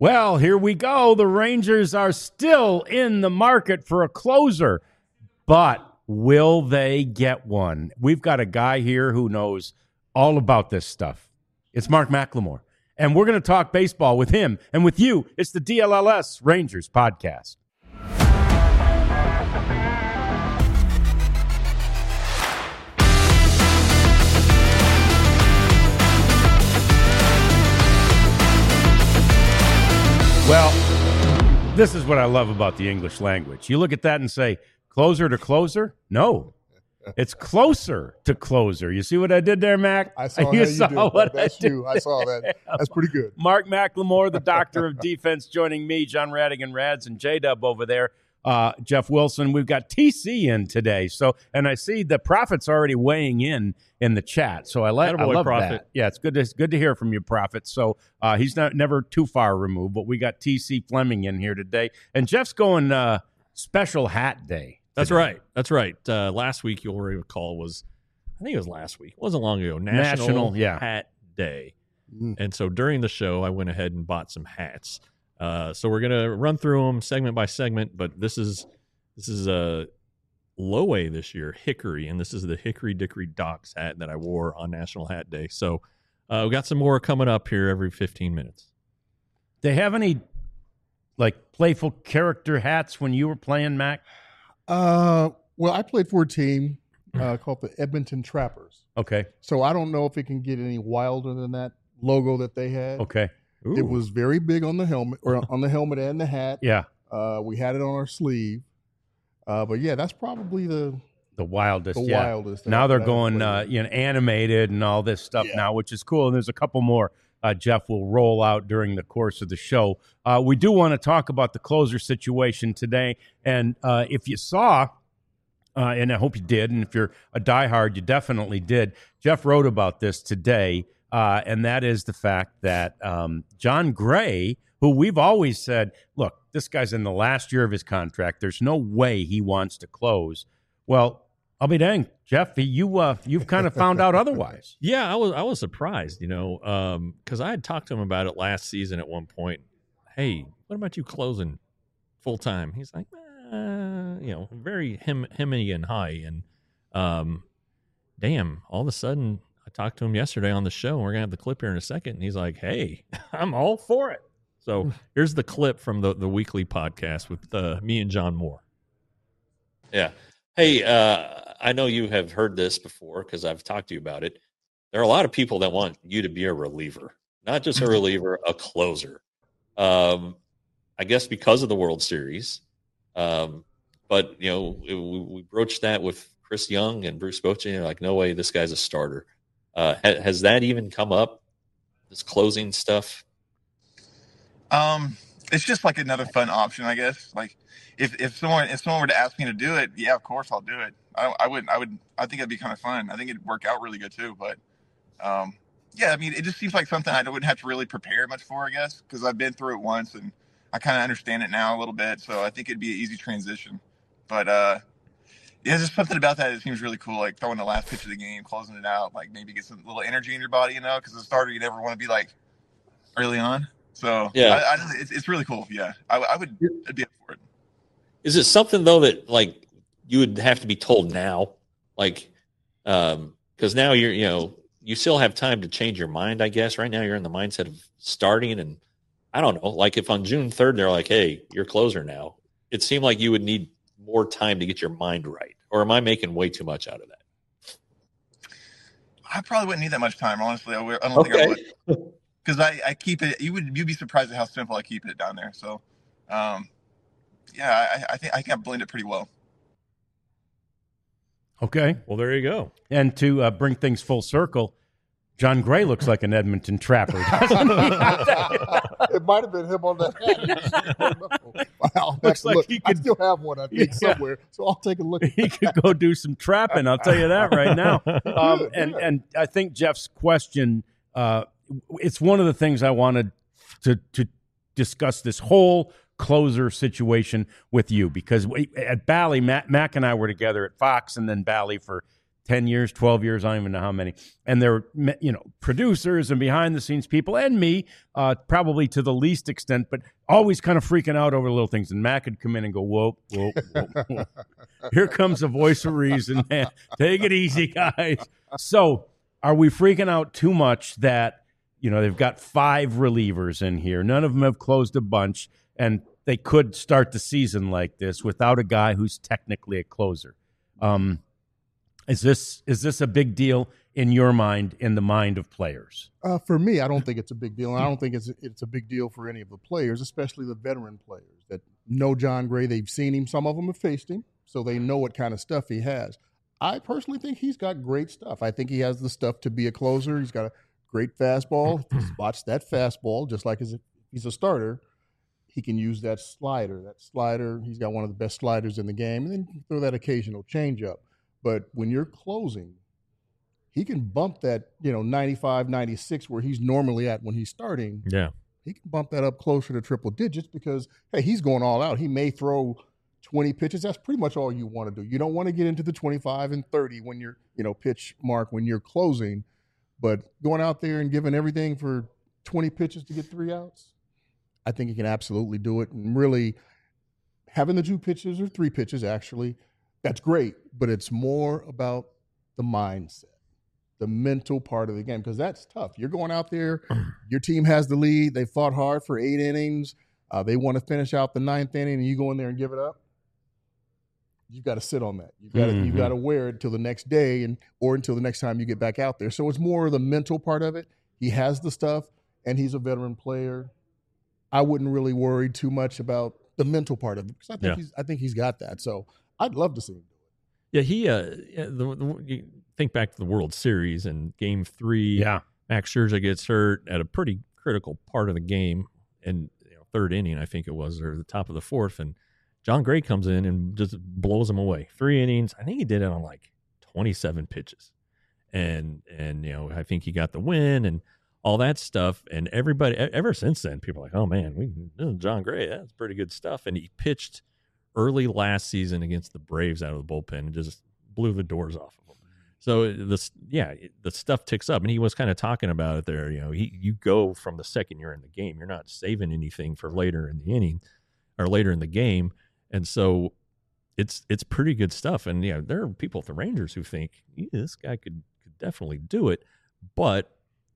Well, here we go. The Rangers are still in the market for a closer, but will they get one? We've got a guy here who knows all about this stuff. It's Mark McLemore, and we're going to talk baseball with him and with you. It's the DLLS Rangers podcast. Well, this is what I love about the English language. You look at that and say, closer to closer? No. It's closer to closer. You see what I did there, Mac? I saw you how saw you did. what That's I did. you. I saw that. That's pretty good. Mark McLemore, the doctor of defense, joining me, John Radigan Rads, and J-Dub over there. Jeff Wilson. We've got TC in today. So, and I see the Prophet's already weighing in the chat. So I love Prophet. that. Yeah, it's good to hear from you, Prophet. So he's never too far removed, but we got TC Fleming in here today. And Jeff's going special hat day. That's right. Last week, you'll recall, I think it was last week. It wasn't long ago. National Hat Day. And so during the show, I went ahead and bought some hats. So we're going to run through them segment by segment, but this is a low A this year, Hickory, and this is the Hickory Dickory Docs hat that I wore on National Hat Day. So we got some more coming up here every 15 minutes. They have any like playful character hats when you were playing, Mac? Well, I played for a team called the Edmonton Trappers. Okay. So I don't know if it can get any wilder than that logo that they had. Okay. Ooh. It was very big on the helmet, or on the helmet and the hat. Yeah. We had it on our sleeve. But yeah, that's probably the wildest. wildest. Now they're going animated and all this stuff now, which is cool. And there's a couple more Jeff will roll out during the course of the show. We do want to talk about the closer situation today. And if you saw, and I hope you did, and if you're a diehard, you definitely did, Jeff wrote about this today. And that is the fact that John Gray, who we've always said, look, this guy's in the last year of his contract. There's no way he wants to close. Well, I'll be dang, Jeff, you've kind of found out otherwise. Yeah, I was surprised, because I had talked to him about it last season at one point. Hey, what about you closing full time? He's like, very hemmy and high, and damn, all of a sudden. I talked to him yesterday on the show, and we're going to have the clip here in a second, and he's like, hey, I'm all for it. So here's the clip from the weekly podcast with me and John Moore. Yeah. Hey, I know you have heard this before because I've talked to you about it. There are a lot of people that want you to be a reliever, not just a reliever, a closer. I guess because of the World Series. But, we broached that with Chris Young and Bruce Bochy, and like, no way, this guy's a starter. Has that even come up? This closing stuff? It's just like another fun option, I guess. Like if someone were to ask me to do it, yeah, of course I'll do it. I think it'd be kind of fun. I think it'd work out really good too. But yeah, I mean, it just seems like something I wouldn't have to really prepare much for, I guess, because I've been through it once and I kind of understand it now a little bit. So I think it'd be an easy transition. But yeah, there's something about that seems really cool, like throwing the last pitch of the game, closing it out, like maybe get some little energy in your body, because as a starter, you never want to be like early on. So yeah, it's really cool. Yeah, I'd be up for it. Is it something though that like you would have to be told now, like because now you still have time to change your mind, I guess. Right now you're in the mindset of starting, and I don't know, like if on June 3rd they're like, hey, you're closer now, it seemed like you would need more time to get your mind right, or am I making way too much out of that? I probably wouldn't need that much time, honestly. I don't think I would, because I keep it. You'd be surprised at how simple I keep it down there. So, yeah, I think I can blend it pretty well. Okay, well there you go. And to bring things full circle, John Gray looks like an Edmonton Trapper, doesn't he? It might have been him on that hat. Wow, looks like he could, I still have one, I think, somewhere. So I'll take a look. He could go do some trapping. I'll tell you that right now. And I think Jeff's question, it's one of the things I wanted to discuss this whole closer situation with you, because at Bally, Mac and I were together at Fox and then Bally for 10 years, 12 years, I don't even know how many. And they're, producers and behind the scenes people and me, probably to the least extent, but always kind of freaking out over little things. And Mac could come in and go, whoa. Here comes the voice of reason, man. Take it easy, guys. So are we freaking out too much that, they've got 5 relievers in here. None of them have closed a bunch, and they could start the season like this without a guy who's technically a closer. Is this a big deal in your mind, in the mind of players? For me, I don't think it's a big deal. And I don't think it's a big deal for any of the players, especially the veteran players that know Jon Gray. They've seen him. Some of them have faced him, so they know what kind of stuff he has. I personally think he's got great stuff. I think he has the stuff to be a closer. He's got a great fastball. If he spots that fastball, just like as if he's a starter, he can use that slider. That slider, he's got one of the best sliders in the game, and then throw that occasional changeup. But when you're closing, he can bump that, 95, 96 where he's normally at when he's starting. Yeah. He can bump that up closer to triple digits because, hey, he's going all out. He may throw 20 pitches. That's pretty much all you want to do. You don't want to get into the 25 and 30 when you're, pitch mark when you're closing. But going out there and giving everything for 20 pitches to get 3 outs, I think he can absolutely do it. And really having the 2 pitches or 3 pitches actually, that's great, but it's more about the mindset, the mental part of the game, because that's tough. You're going out there, your team has the lead, they fought hard for 8 innings, they want to finish out the 9th inning, and you go in there and give it up. You've got to sit on that. You've got to wear it till the next day or until the next time you get back out there. So it's more of the mental part of it. He has the stuff, and he's a veteran player. I wouldn't really worry too much about the mental part of it because I think he's got that. So I'd love to see him do it. Yeah, you think back to the World Series and Game 3. Yeah, Max Scherzer gets hurt at a pretty critical part of the game, and 3rd inning, I think it was, or the top of the 4th, and Jon Gray comes in and just blows him away. 3 innings. I think he did it on like 27 pitches, and I think he got the win and all that stuff. And everybody, ever since then, people are like, oh man, Jon Gray, that's pretty good stuff. And he pitched early last season against the Braves out of the bullpen and just blew the doors off of them. So the stuff ticks up, and he was kind of talking about it there. You go from the second you're in the game, you're not saving anything for later in the inning or later in the game, and so it's pretty good stuff. And there are people at the Rangers who think this guy could definitely do it, but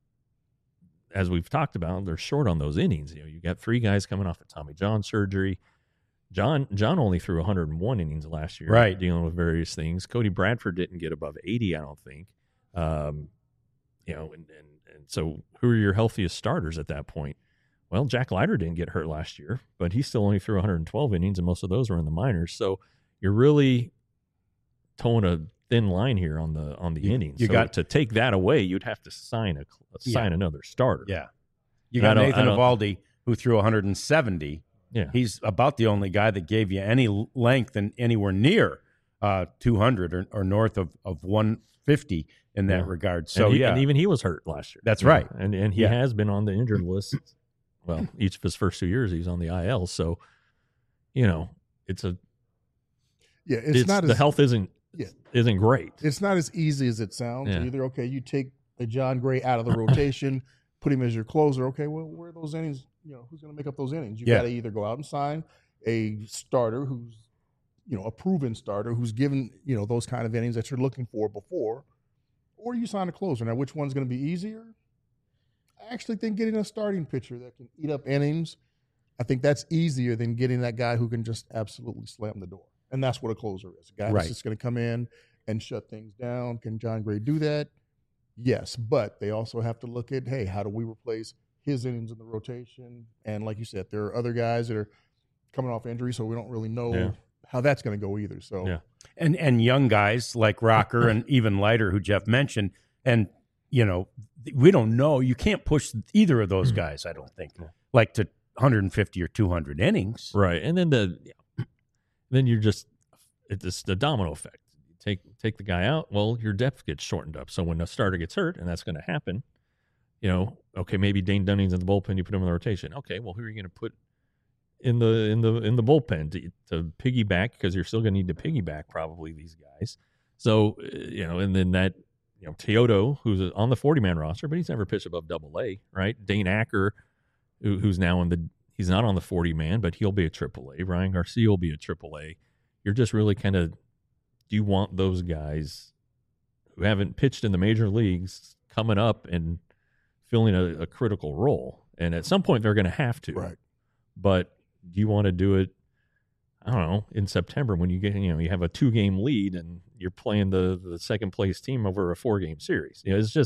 as we've talked about, they're short on those innings. You got 3 guys coming off the Tommy John surgery. John only threw 101 innings last year, right, dealing with various things. Cody Bradford didn't get above 80, I don't think. And so who are your healthiest starters at that point? Well, Jack Leiter didn't get hurt last year, but he still only threw 112 innings, and most of those were in the minors. So you're really towing a thin line here on the innings. You got to take that away. You'd have to sign another starter. Yeah, you got Nathan Eovaldi, who threw 170. Yeah, he's about the only guy that gave you any length and anywhere near 200 or north of 150 in that regard. So and even he was hurt last year. That's right, and he has been on the injured list. Well, each of his first 2 years he's on the IL. So it's the health isn't great. It's not as easy as it sounds. Yeah. Either you take a Jon Gray out of the rotation, put him as your closer. Okay, well, where are those innings? Who's going to make up those innings? You got to either go out and sign a starter who's, a proven starter who's given, those kind of innings that you're looking for before, or you sign a closer. Now, which one's going to be easier? I actually think getting a starting pitcher that can eat up innings, I think that's easier than getting that guy who can just absolutely slam the door. And that's what a closer is. A guy that's just going to come in and shut things down. Can Jon Gray do that? Yes, but they also have to look at, hey, how do we replace his innings in the rotation? And like you said, there are other guys that are coming off injury, so we don't really know how that's going to go either. So and young guys like Rocker and even Leiter, who Jeff mentioned, and we don't know. You can't push either of those guys, I don't think, like to 150 or 200 innings. Right, and then you're just it's the domino effect. Take the guy out, well, your depth gets shortened up. So when a starter gets hurt, and that's going to happen, okay, maybe Dane Dunning's in the bullpen, you put him in the rotation. Okay, well, who are you going to put in the bullpen to piggyback, because you're still going to need to piggyback probably these guys. So, and then that, Teodo, who's on the 40-man roster, but he's never pitched above Double-A, right? Dane Acker, who's now he's not on the 40-man, but he'll be a Triple-A. Ryan Garcia will be a Triple-A. You're just really kind of, do you want those guys who haven't pitched in the major leagues coming up and filling a critical role? And at some point they're going to have to. Right. But do you want to do it, I don't know, in September when you get, you have a 2-game lead and you're playing the second place team over a 4-game series?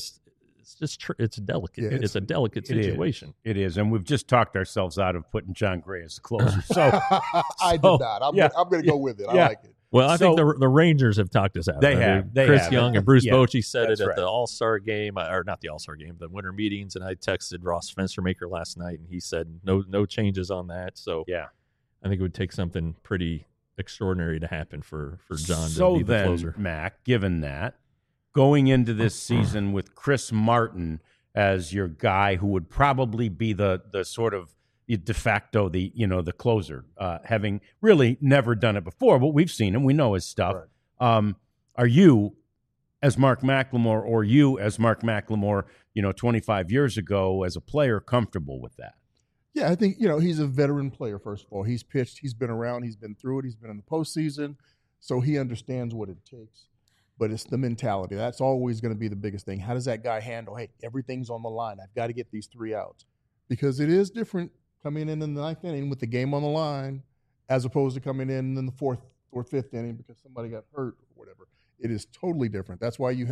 It's delicate. Yeah, it's a delicate situation. It is. And we've just talked ourselves out of putting John Gray as the closer. So I did not. I'm going to go with it. I like it. Well, I think the Rangers have talked us out. They have. Chris Young and Bruce Bochy said that's it at right. the All-Star game, or not the All-Star game, the winter meetings. And I texted Ross Fenstermaker last night, and he said no changes on that. So yeah, I think it would take something pretty extraordinary to happen for John so to be the then, closer. Mac, given that, going into this season with Chris Martin as your guy who would probably be the sort of de facto, the closer, having really never done it before, but we've seen him, we know his stuff. Right. Are you, as Mark McLemore, or you as Mark McLemore, 25 years ago as a player, comfortable with that? Yeah, I think, he's a veteran player, first of all. He's pitched, he's been around, he's been through it, he's been in the postseason, so he understands what it takes. But it's the mentality. That's always going to be the biggest thing. How does that guy handle, hey, everything's on the line, I've got to get these 3 outs? Because it is different coming in the 9th inning with the game on the line as opposed to coming in the 4th or 5th inning because somebody got hurt or whatever. It is totally different. That's why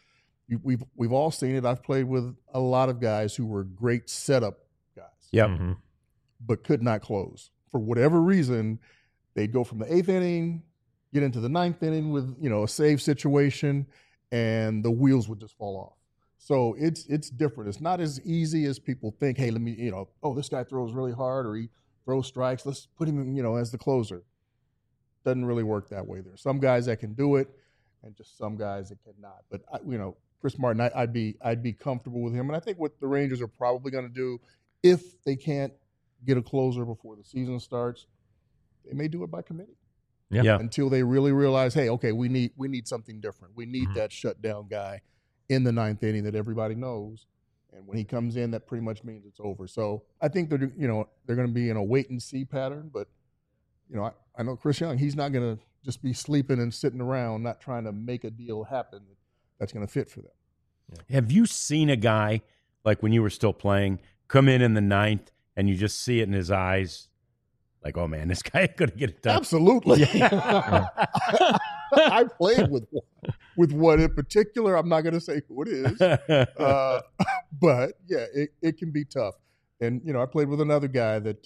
we've all seen it. I've played with a lot of guys who were great setup guys. Yep. Mm-hmm. But could not close. For whatever reason, they'd go from the 8th inning, get into the 9th inning with, a save situation, and the wheels would just fall off. So it's different. It's not as easy as people think, hey, let me, this guy throws really hard or he throws strikes. Let's put him in, as the closer. Doesn't really work that way. There's some guys that can do it and just some guys that cannot. But, Chris Martin, I'd be comfortable with him. And I think what the Rangers are probably going to do, if they can't get a closer before the season starts, they may do it by committee. Yeah. Until they really realize, hey, okay, we need something different. We need that shutdown guy in the 9th inning that everybody knows, and when he comes in, that pretty much means it's over. So I think they're going to be in a wait and see pattern. But I know Chris Young, he's not going to just be sleeping and sitting around, not trying to make a deal happen that's going to fit for them. Yeah. Have you seen a guy like when you were still playing come in the 9th and you just see it in his eyes? Like, oh, man, this guy could get it done. Absolutely. Yeah. I played with one in particular. I'm not going to say who it is. But, yeah, it can be tough. And, I played with another guy that,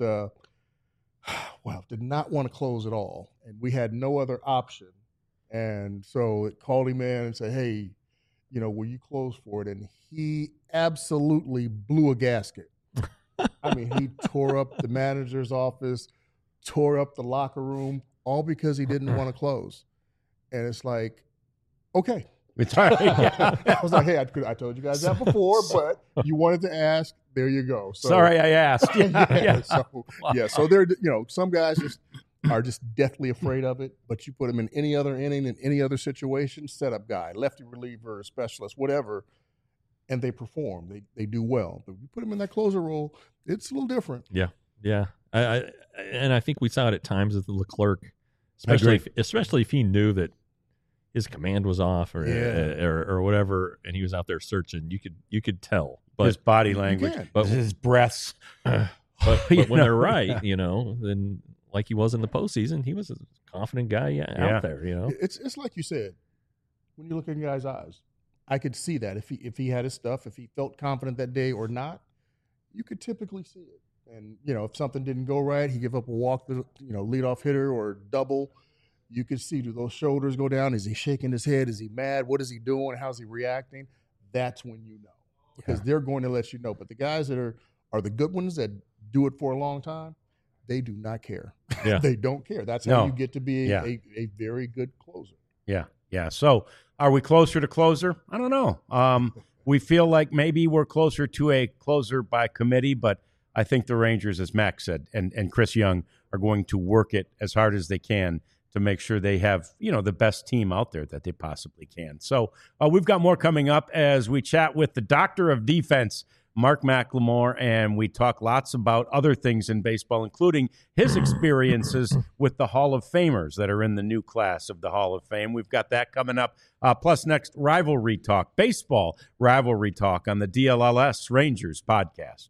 did not want to close at all. And we had no other option. And so it called him in and said, hey, will you close for it? And he absolutely blew a gasket. I mean, he tore up the manager's office, tore up the locker room, all because he didn't want to close. And it's like, okay. It's all right. Yeah. I was like, hey, I told you guys that before, but you wanted to ask. There you go. So, sorry I asked. Yeah. So they're, some guys are just deathly afraid of it, but you put them in any other inning, in any other situation, setup guy, lefty reliever, specialist, whatever, and they perform. They do well. But you put them in that closer role, it's a little different. Yeah. Yeah. I think we saw it at times with Leclerc, especially if he knew that his command was off or whatever, and he was out there searching. You could tell, but his body language, but his breaths. But when they're right, then like he was in the postseason, he was a confident guy out there. It's like you said, when you look in a guy's eyes, I could see that if he had his stuff, if he felt confident that day or not, you could typically see it. And, if something didn't go right, he give up a walk, leadoff hitter or double, you could see, do those shoulders go down? Is he shaking his head? Is he mad? What is he doing? How's he reacting? That's when you know, because they're going to let you know. But the guys that are the good ones that do it for a long time, they do not care. Yeah. They don't care. That's how you get to be a very good closer. Yeah. Yeah. So are we closer to closer? I don't know. We feel like maybe we're closer to a closer by committee, but I think the Rangers, as Max said, and Chris Young are going to work it as hard as they can to make sure they have, the best team out there that they possibly can. So we've got more coming up as we chat with the doctor of defense, Mark McLemore, and we talk lots about other things in baseball, including his experiences with the Hall of Famers that are in the new class of the Hall of Fame. We've got that coming up. Plus next, rivalry talk, baseball rivalry talk on the DLLS Rangers podcast.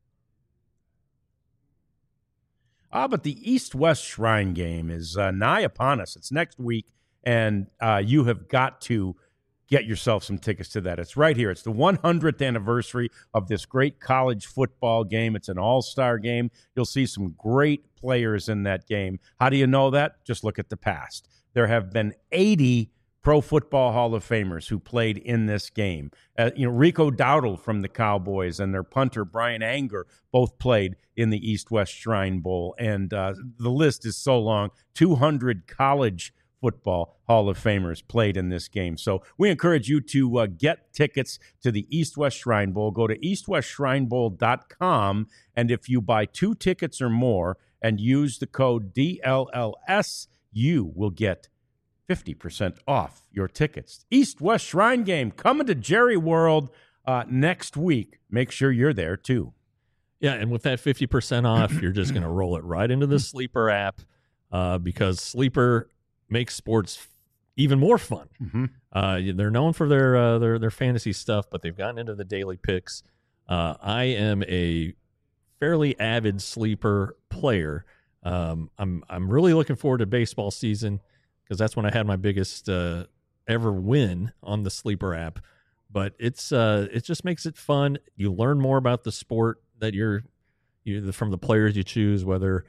But the East-West Shrine Game is nigh upon us. It's next week, and you have got to get yourself some tickets to that. It's right here. It's the 100th anniversary of this great college football game. It's an all-star game. You'll see some great players in that game. How do you know that? Just look at the past. There have been 80 Pro Football Hall of Famers who played in this game. Rico Dowdle from the Cowboys and their punter Brian Anger both played in the East-West Shrine Bowl. And the list is so long. 200 college football Hall of Famers played in this game. So we encourage you to get tickets to the East-West Shrine Bowl. Go to eastwestshrinebowl.com, and if you buy 2 tickets or more and use the code DLLS, you will get 50% off your tickets. East-West Shrine Game coming to Jerry World next week. Make sure you're there too. Yeah, and with that 50% off, you're just going to roll it right into the Sleeper app because Sleeper makes sports even more fun. Mm-hmm. They're known for their fantasy stuff, but they've gotten into the daily picks. I am a fairly avid Sleeper player. I'm really looking forward to baseball season because that's when I had my biggest ever win on the Sleeper app. But it just makes it fun. You learn more about the sport that you're from the players you choose, whether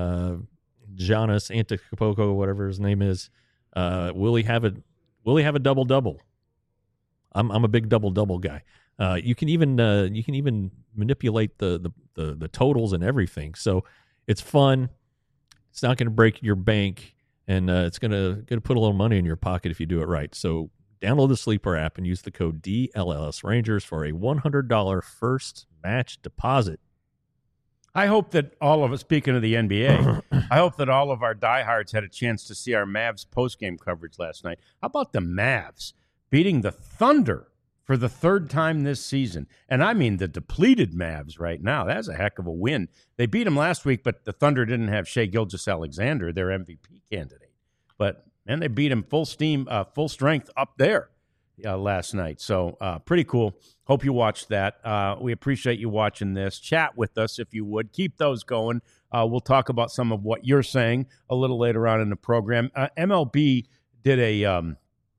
Giannis Antetokounmpo, whatever his name is, will he have a double-double? I'm a big double-double guy. You can even manipulate the totals and everything. So it's fun. It's not going to break your bank, and it's going to put a little money in your pocket if you do it right. So download the Sleeper app and use the code DLLS Rangers for a $100 first match deposit. I hope that all of us, speaking of the NBA, I hope that all of our diehards had a chance to see our Mavs postgame coverage last night. How about the Mavs beating the Thunder for the 3rd time this season? And I mean the depleted Mavs right now. That's a heck of a win. They beat them last week, but the Thunder didn't have Shai Gilgeous-Alexander, their MVP candidate. But, man, they beat him full steam, full strength up there last night. So pretty cool. Hope you watched that. We appreciate you watching this. Chat with us if you would. Keep those going. We'll talk about some of what you're saying a little later on in the program. MLB did a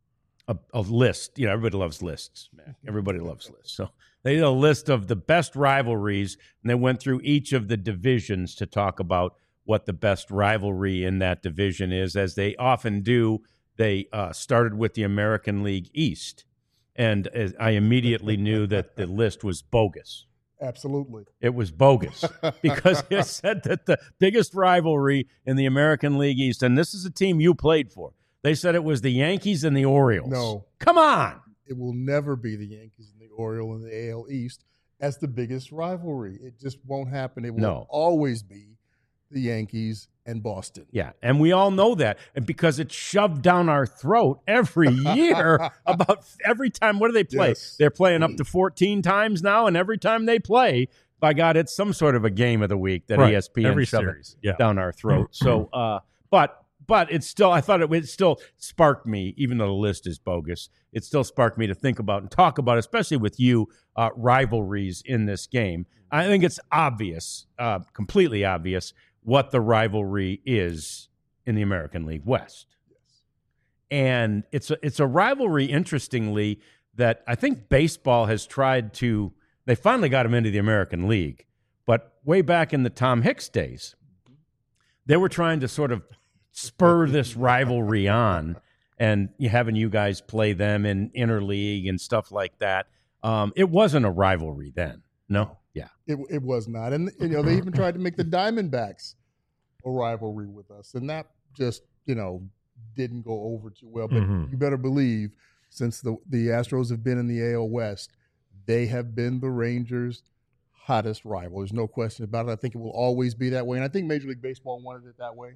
list. Everybody loves lists, man. Everybody loves lists. So they did a list of the best rivalries, and they went through each of the divisions to talk about what the best rivalry in that division is. As they often do, they started with the American League East. And I immediately knew that the list was bogus. Absolutely. It was bogus because it said that the biggest rivalry in the American League East, and this is a team you played for, they said it was the Yankees and the Orioles. No. Come on. It will never be the Yankees and the Orioles in the AL East as the biggest rivalry. It just won't happen. It will always be the Yankees and Boston. Yeah, and we all know that. And because it's shoved down our throat every year about every time. What do they play? Yes. They're playing up to 14 times now, and every time they play, by God, it's some sort of a game of the week that ESPN shoves down our throat. So, but it's still, I thought it still sparked me, even though the list is bogus, it still sparked me to think about and talk about, especially with you, rivalries in this game. I think it's obvious, completely obvious, what the rivalry is in the American League West. Yes. And it's a rivalry, interestingly, that I think baseball has tried to, they finally got him into the American League, but way back in the Tom Hicks days, they were trying to sort of spur this rivalry on, and having you guys play them in interleague and stuff like that. It wasn't a rivalry then. No. Yeah. It was not. And they even tried to make the Diamondbacks a rivalry with us. And that just, didn't go over too well. But you better believe, since the Astros have been in the AL West, they have been the Rangers' hottest rival. There's no question about it. I think it will always be that way. And I think Major League Baseball wanted it that way.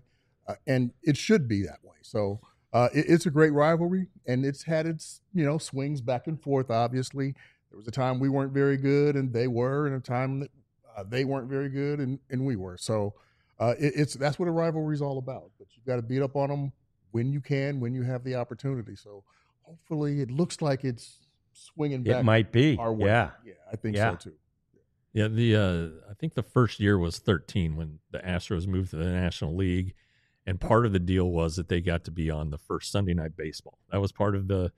and it should be that way. So it's a great rivalry, and it's had its swings back and forth. Obviously, there was a time we weren't very good, and they were, and a time that they weren't very good, and we were. So that's what a rivalry is all about. But you've got to beat up on them when you can, when you have the opportunity. So hopefully, it looks like it's swinging back. It might be our way. Yeah, I think so too. Yeah, I think the first year was 13 when the Astros moved to the National League, and part of the deal was that they got to be on the first Sunday Night Baseball. That was part of the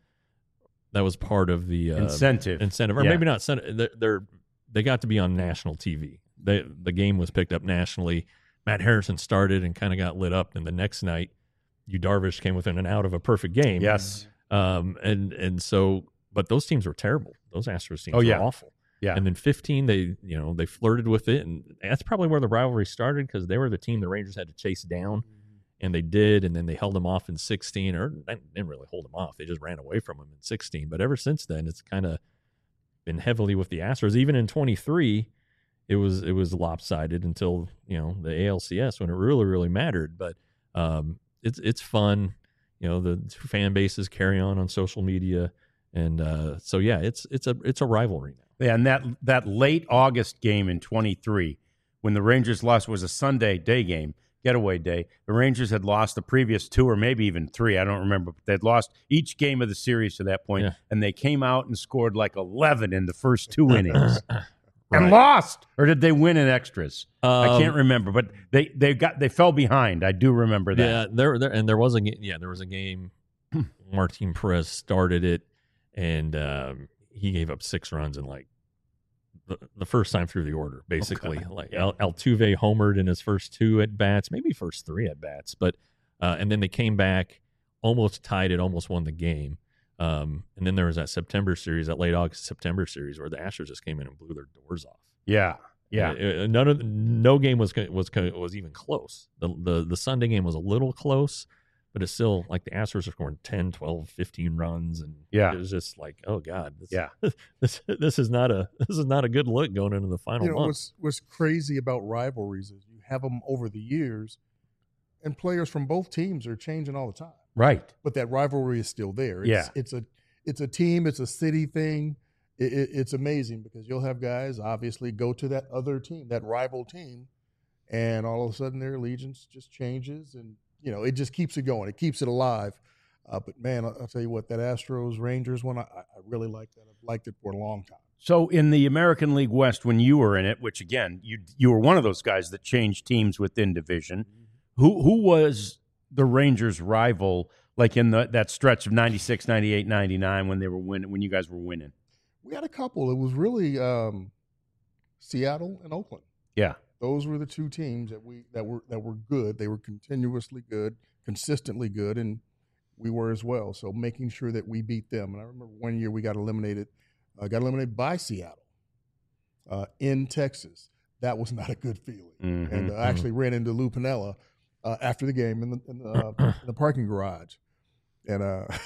incentive, or maybe not. They got to be on national TV. The game was picked up nationally. Matt Harrison started and kind of got lit up, and the next night, Yu Darvish came within an out of a perfect game. Yes, and so, but those teams were terrible. Those Astros teams were awful. Yeah. And then 15, they flirted with it, and that's probably where the rivalry started because they were the team the Rangers had to chase down, and they did, and then they held them off in 16, or they didn't really hold them off. They just ran away from them in 16. But ever since then, it's kind of been heavily with the Astros. Even in 23, it was lopsided until the ALCS when it really, really mattered. But it's fun. The two fan bases carry on social media, and so yeah, it's a rivalry now. Yeah, and that late August game in 23, when the Rangers lost, was a Sunday day game, getaway day. The Rangers had lost the previous 2 or maybe even 3, I don't remember. But they'd lost each game of the series to that point, and they came out and scored like 11 in the first 2 innings. And lost, or did they win in extras? I can't remember, but they fell behind. I do remember that. Yeah, there was a game. Martin Perez started it, and he gave up 6 runs in like the first time through the order, basically. Okay. Like Altuve homered in his first 2 at bats, maybe first 3 at bats, but and then they came back, almost tied it, almost won the game. And then there was that late August September series where the Astros just came in and blew their doors off. Yeah. No game was even close. The Sunday game was a little close, but it's still like the Astros are scoring 10, 12, 15 runs, and it was just like, oh God, this is not a good look going into the final month. What's crazy about rivalries is you have them over the years, and players from both teams are changing all the time. Right. But that rivalry is still there. It's a team, it's a city thing. It's amazing because you'll have guys obviously go to that other team, that rival team, and all of a sudden their allegiance just changes, and it just keeps it going. It keeps it alive. But man, I'll tell you what, that Astros Rangers one, I really like that. I've liked it for a long time. So in the American League West, when you were in it, which again, you were one of those guys that changed teams within division, who was the Rangers' rival, like in that stretch of 96, 98, 99 when they were when you guys were winning? We had a couple. It was really Seattle and Oakland. Yeah. Those were the 2 teams that were good. They were continuously good, consistently good, and we were as well. So making sure that we beat them. And I remember one year we got eliminated by Seattle in Texas. That was not a good feeling. Mm-hmm. And I actually ran into Lou Piniella after the game in the parking garage, and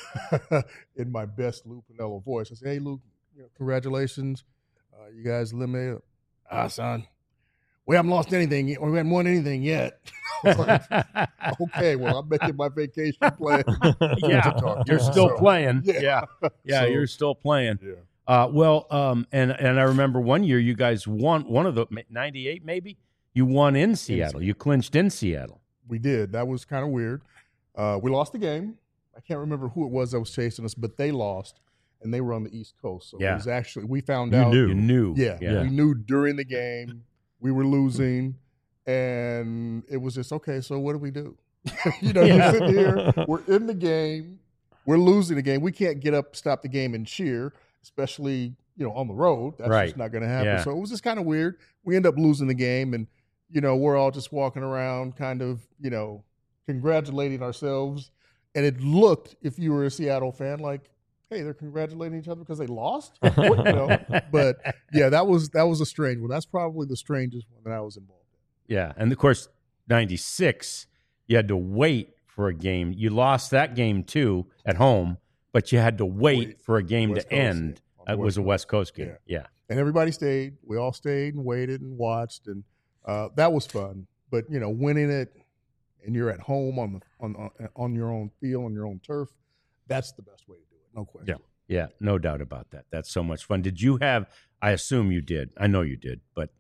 in my best Lou Piniella voice, I said, "Hey, Lou, congratulations, you guys eliminated." Son, we haven't lost anything. We haven't won anything yet. Like, okay, well, I'm making my vacation plan. You're still playing. Yeah, so, you're still playing. Yeah. And I remember one year you guys won one of the 98, maybe you won in Seattle. You clinched in Seattle. We did. That was kind of weird. We lost the game. I can't remember who it was that was chasing us, but they lost, and they were on the East Coast. So it was actually, we found out. You knew. Yeah, we knew during the game we were losing, and it was just, okay, so what do we do? You're sitting here, we're in the game, we're losing the game. We can't get up, stop the game, and cheer, especially, on the road. That's just not going to happen. Yeah. So it was just kind of weird. We end up losing the game, and we're all just walking around kind of, congratulating ourselves. And it looked, if you were a Seattle fan, like, hey, they're congratulating each other because they lost. But yeah, that was a strange one. That's probably the strangest one that I was involved in. Yeah. And of course, 96, you had to wait for a game. You lost that game too at home, but you had to wait for a game to end. It was a West Coast game. Yeah. And everybody stayed. We all stayed and waited and watched, and that was fun. But winning it, and you're at home on your own field, on your own turf, that's the best way to do it. No question. Yeah, no doubt about that. That's so much fun. Did you have, I assume you did, I know you did, but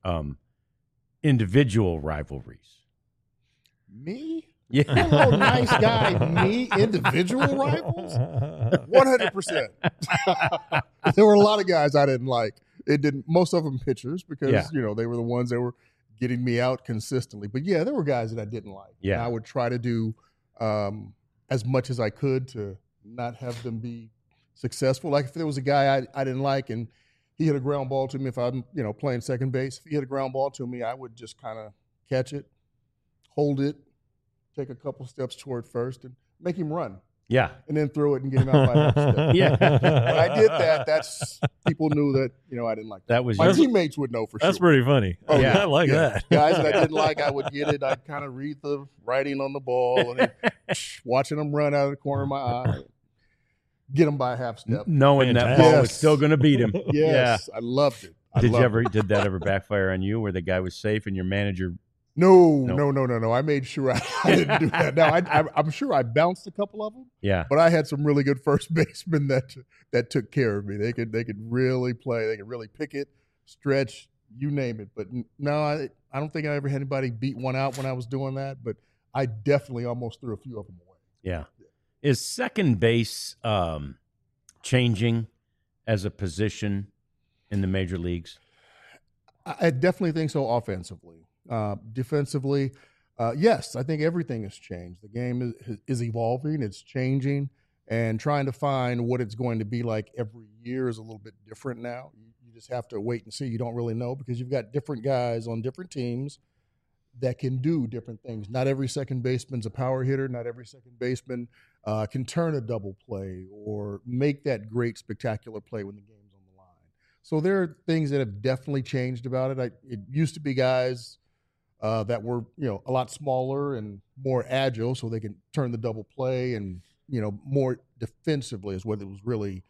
individual rivalries? Me? Yeah. Hello, nice guy. Me? Individual rivals? 100%. There were a lot of guys I didn't like. Most of them pitchers because, they were the ones that were getting me out consistently. But, there were guys that I didn't like. Yeah. And I would try to do as much as I could to not have them be successful. Like if there was a guy I didn't like and he hit a ground ball to me, if I'm, playing second base, if he hit a ground ball to me, I would just kind of catch it, hold it, take a couple steps toward first and make him run. Yeah. And then throw it and get him out by half step. Yeah. When I did that, people knew that, I didn't like that. My teammates would know for sure. That's pretty funny. Oh, yeah. I like that. Guys that I didn't like, I would get it. I'd kind of read the writing on the ball and then watching them run out of the corner of my eye. Get him by a half step. Knowing that ball was still going to beat him. Yes. I loved it. Did that ever backfire on you where the guy was safe and your manager? No. I made sure I didn't do that. Now, I'm sure I bounced a couple of them. Yeah. But I had some really good first basemen that took care of me. They could really play. They could really pick it, stretch, you name it. But no, I don't think I ever had anybody beat one out when I was doing that. But I definitely almost threw a few of them away. Yeah. Is second base changing as a position in the major leagues? I definitely think so offensively. Defensively, yes, I think everything has changed. The game is evolving. It's changing. And trying to find what it's going to be like every year is a little bit different now. You just have to wait and see. You don't really know because you've got different guys on different teams that can do different things. Not every second baseman's a power hitter. Not every second baseman can turn a double play or make that great spectacular play when the game's on the line. So there are things that have definitely changed about it. It used to be guys that were, a lot smaller and more agile so they can turn the double play and, more defensively is what it was really,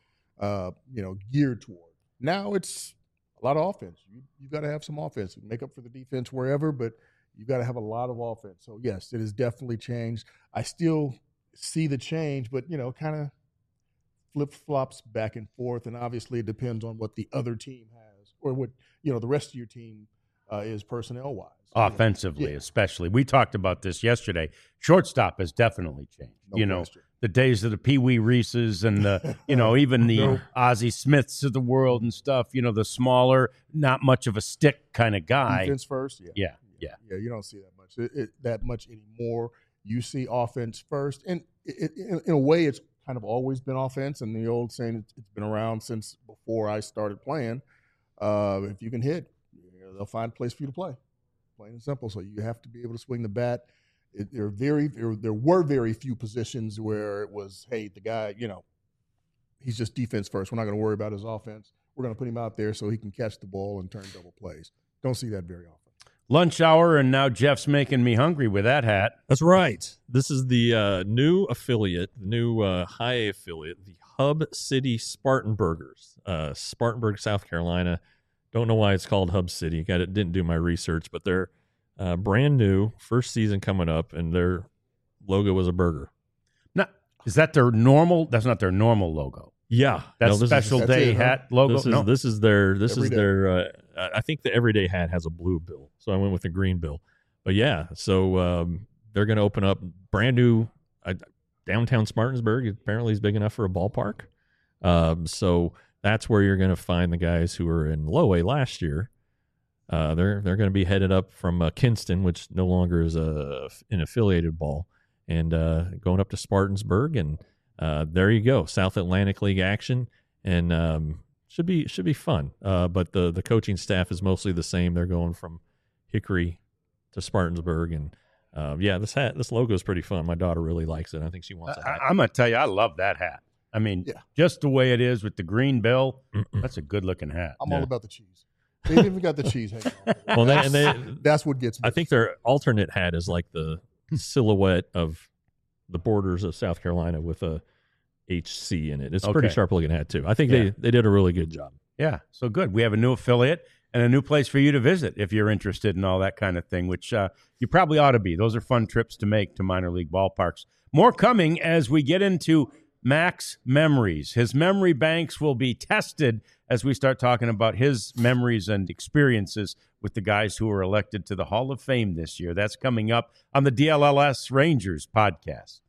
geared toward. Now it's a lot of offense. You've got to have some offense and make up for the defense wherever, but you've got to have a lot of offense. So, yes, it has definitely changed. I still see the change, but, kind of flip-flops back and forth, and obviously it depends on what the other team has or what, the rest of your team is personnel-wise. Offensively, especially. We talked about this yesterday. Shortstop has definitely changed. No question. The days of the Pee Wee Reeses and the, even the Ozzie Smiths of the world and stuff, the smaller, not much of a stick kind of guy. Defense first, Yeah, you don't see that much anymore. You see offense first. And in a way, it's kind of always been offense. And the old saying, it's been around since before I started playing. If you can hit, they'll find a place for you to play. Plain and simple. So you have to be able to swing the bat. There were very few positions where it was, hey, the guy, he's just defense first. We're not going to worry about his offense. We're going to put him out there so he can catch the ball and turn double plays. Don't see that very often. Lunch hour, and now Jeff's making me hungry with that hat. That's right. This is the new affiliate, the new high A affiliate, the Hub City Spartanburgers, Spartanburg, South Carolina. Don't know why it's called Hub City. Didn't do my research, but they're brand new, first season coming up, and their logo was a burger. Now, is that their normal? That's not their normal logo. Yeah, that's special day hat logo. This is their. I think the everyday hat has a blue bill, so I went with the green bill. But yeah, so they're going to open up brand new downtown Spartanburg. Apparently, is big enough for a ballpark. So that's where you're going to find the guys who were in low A last year. They're going to be headed up from Kinston, which no longer is an affiliated ball, and going up to Spartanburg, and there you go, South Atlantic League action, and should be fun. But the coaching staff is mostly the same. They're going from Hickory to Spartanburg, and this logo is pretty fun. My daughter really likes it. I think she wants a hat. I'm going to tell you, I love that hat. I mean, just the way it is with the green bill, that's a good-looking hat. I'm all about the cheese. They've even got the cheese hanging on. Well, that's what gets me. I think their alternate hat is like the silhouette of the borders of South Carolina with a HC in it. It's a pretty sharp-looking hat, too. I think they did a really good job. Yeah, so good. We have a new affiliate, and a new place for you to visit if you're interested in all that kind of thing, which you probably ought to be. Those are fun trips to make to minor league ballparks. More coming as we get into Mac's memories. His memory banks will be tested as we start talking about his memories and experiences with the guys who were elected to the Hall of Fame this year. That's coming up on the DLLS Rangers podcast.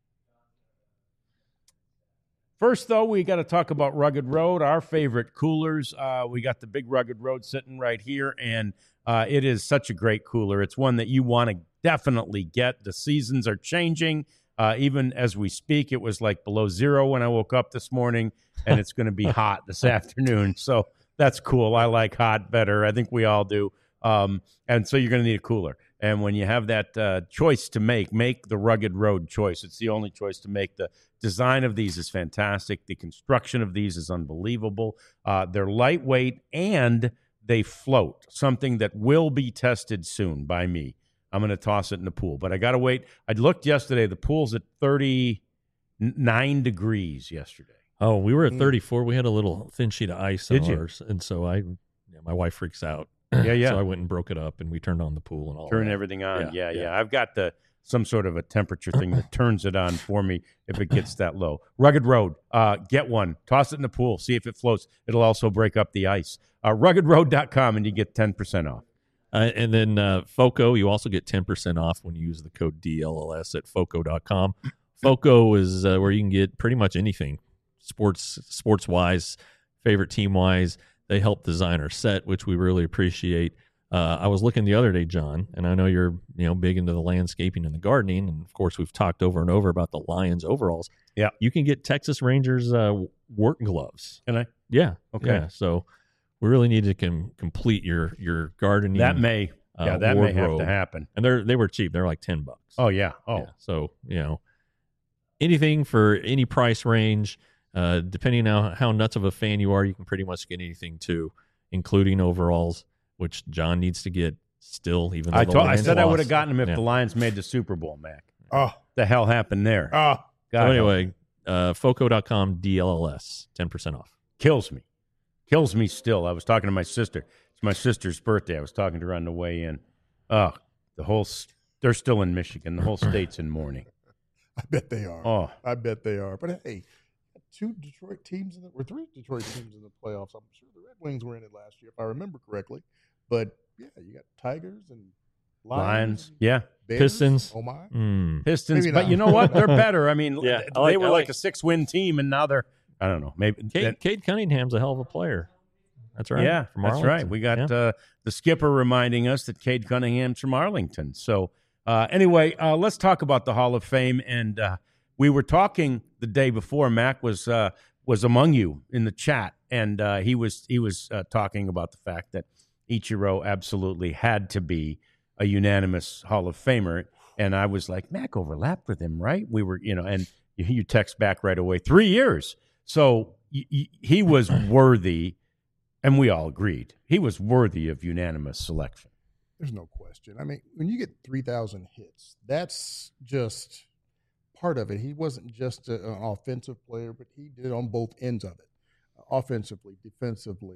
First, though, we got to talk about Rugged Road, our favorite coolers. We got the big Rugged Road sitting right here, and it is such a great cooler. It's one that you want to definitely get. The seasons are changing. Even as we speak, it was like below zero when I woke up this morning, and it's going to be hot this afternoon. So that's cool. I like hot better. I think we all do. And so you're going to need a cooler. And when you have that choice to make the Rugged Road choice. It's the only choice to make. The design of these is fantastic. The construction of these is unbelievable. They're lightweight and they float, something that will be tested soon by me. I'm going to toss it in the pool, but I got to wait. I looked yesterday. The pool's at 39 degrees yesterday. Oh, we were at 34. We had a little thin sheet of ice on ours, and so my wife freaks out. Yeah. So I went and broke it up, and we turned on the pool and all. Turn everything on. Yeah. I've got some sort of a temperature thing that turns it on for me if it gets that low. Rugged Road, get one. Toss it in the pool. See if it floats. It'll also break up the ice. RuggedRoad.com, and you get 10% off. And then FOCO, you also get 10% off when you use the code DLLS at FOCO.com. FOCO is where you can get pretty much anything, sports-wise, favorite team-wise. They help design our set, which we really appreciate. I was looking the other day, John, and I know you're big into the landscaping and the gardening, and of course we've talked over and over about the Lions overalls. Yeah, you can get Texas Rangers work gloves. Can I? Yeah. Okay. Yeah, so we really need to complete your gardening. That may have to happen. And they were cheap. They're like $10. Oh yeah. Oh, yeah. So anything for any price range. Depending on how nuts of a fan you are, you can pretty much get anything too, including overalls, which John needs to get still. Even though I said I would have gotten them if the Lions made the Super Bowl, Mac. Oh, the hell happened there? Oh, so anyway, FOCO.com DLLS 10% off. Kills me still. I was talking to my sister. It's my sister's birthday. I was talking to her on the way in. They're still in Michigan. The whole state's in mourning. I bet they are. Oh, I bet they are. But hey, three Detroit teams in the playoffs. I'm sure the Red Wings were in it last year, if I remember correctly. But yeah, you got Tigers and Lions. Yeah. Bears. Pistons. Oh my. Pistons. But you know what? They're better. I mean, they were like a 6-win team, and now they're, I don't know, maybe. Cade Cunningham's a hell of a player. That's right. Yeah, that's right. We got the skipper reminding us that Cade Cunningham's from Arlington. So anyway, let's talk about the Hall of Fame. And we were talking the day before. Mac was among you in the chat, and he was talking about the fact that Ichiro absolutely had to be a unanimous Hall of Famer. And I was like, Mac overlapped with him, right? We were, and you text back right away, 3 years. So he was worthy, and we all agreed. He was worthy of unanimous selection. There's no question. I mean, when you get 3,000 hits, that's just part of it. He wasn't just an offensive player, but he did it on both ends of it, offensively, defensively.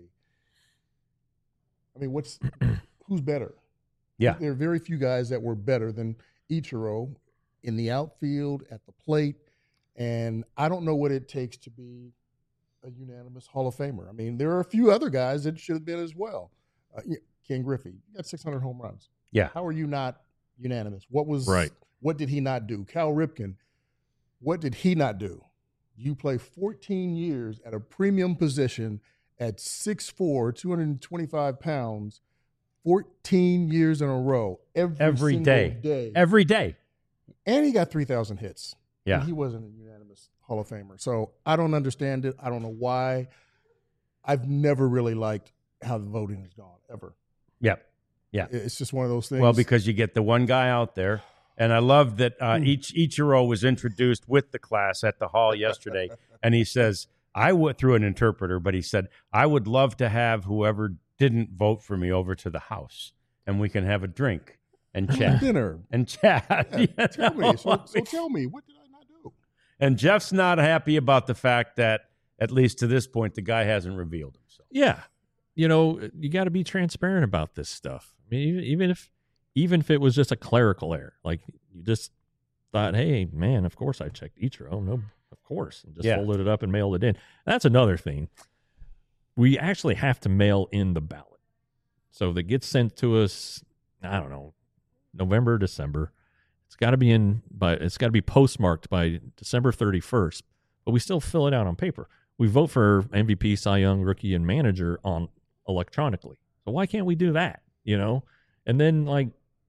I mean, who's better? Yeah. There are very few guys that were better than Ichiro in the outfield, at the plate, and I don't know what it takes to be a unanimous Hall of Famer. I mean, there are a few other guys that should have been as well. Ken Griffey, you got 600 home runs. Yeah. How are you not unanimous? Right. What did he not do? Cal Ripken, what did he not do? You play 14 years at a premium position at 6'4", 225 pounds, 14 years in a row, every day. Every day. And he got 3,000 hits. Yeah. And he wasn't a unanimous Hall of Famer. So I don't understand it. I don't know why. I've never really liked how the voting has gone, ever. Yep. Yeah. It's just one of those things. Well, because you get the one guy out there. And I love that Ichiro was introduced with the class at the hall yesterday. And he says, I went through an interpreter, but he said, I would love to have whoever didn't vote for me over to the house, and we can have a drink and chat. Dinner. And chat. Yeah, tell me. So tell me, what did I not do? And Jeff's not happy about the fact that, at least to this point, the guy hasn't revealed himself. Yeah. you got to be transparent about this stuff. I mean, even if it was just a clerical error, like you just thought, hey, man, of course I checked Ichiro. No, of course. And just folded it up and mailed it in. That's another thing. We actually have to mail in the ballot. So that gets sent to us, I don't know, November, December. It's got to be postmarked by December 31st, but we still fill it out on paper. We vote for MVP, Cy Young, rookie, and manager on electronically. So why can't we do that? And then like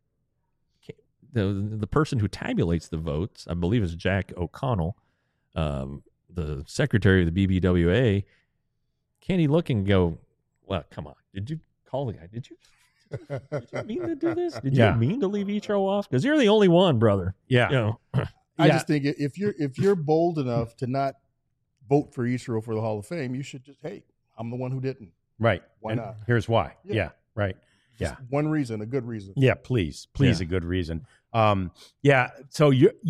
the person who tabulates the votes, I believe is Jack O'Connell, the secretary of the BBWA. Can he look and go, well, come on, did you call the guy? Did you mean to do this? Did you mean to leave Ichiro off? Because you're the only one, brother. Yeah. I just think if you're bold enough to not vote for Ichiro for the Hall of Fame, you should just, hey, I'm the one who didn't. Right. Why not? Here's why. Yeah. Right. Just one reason, a good reason. Yeah, please, a good reason. So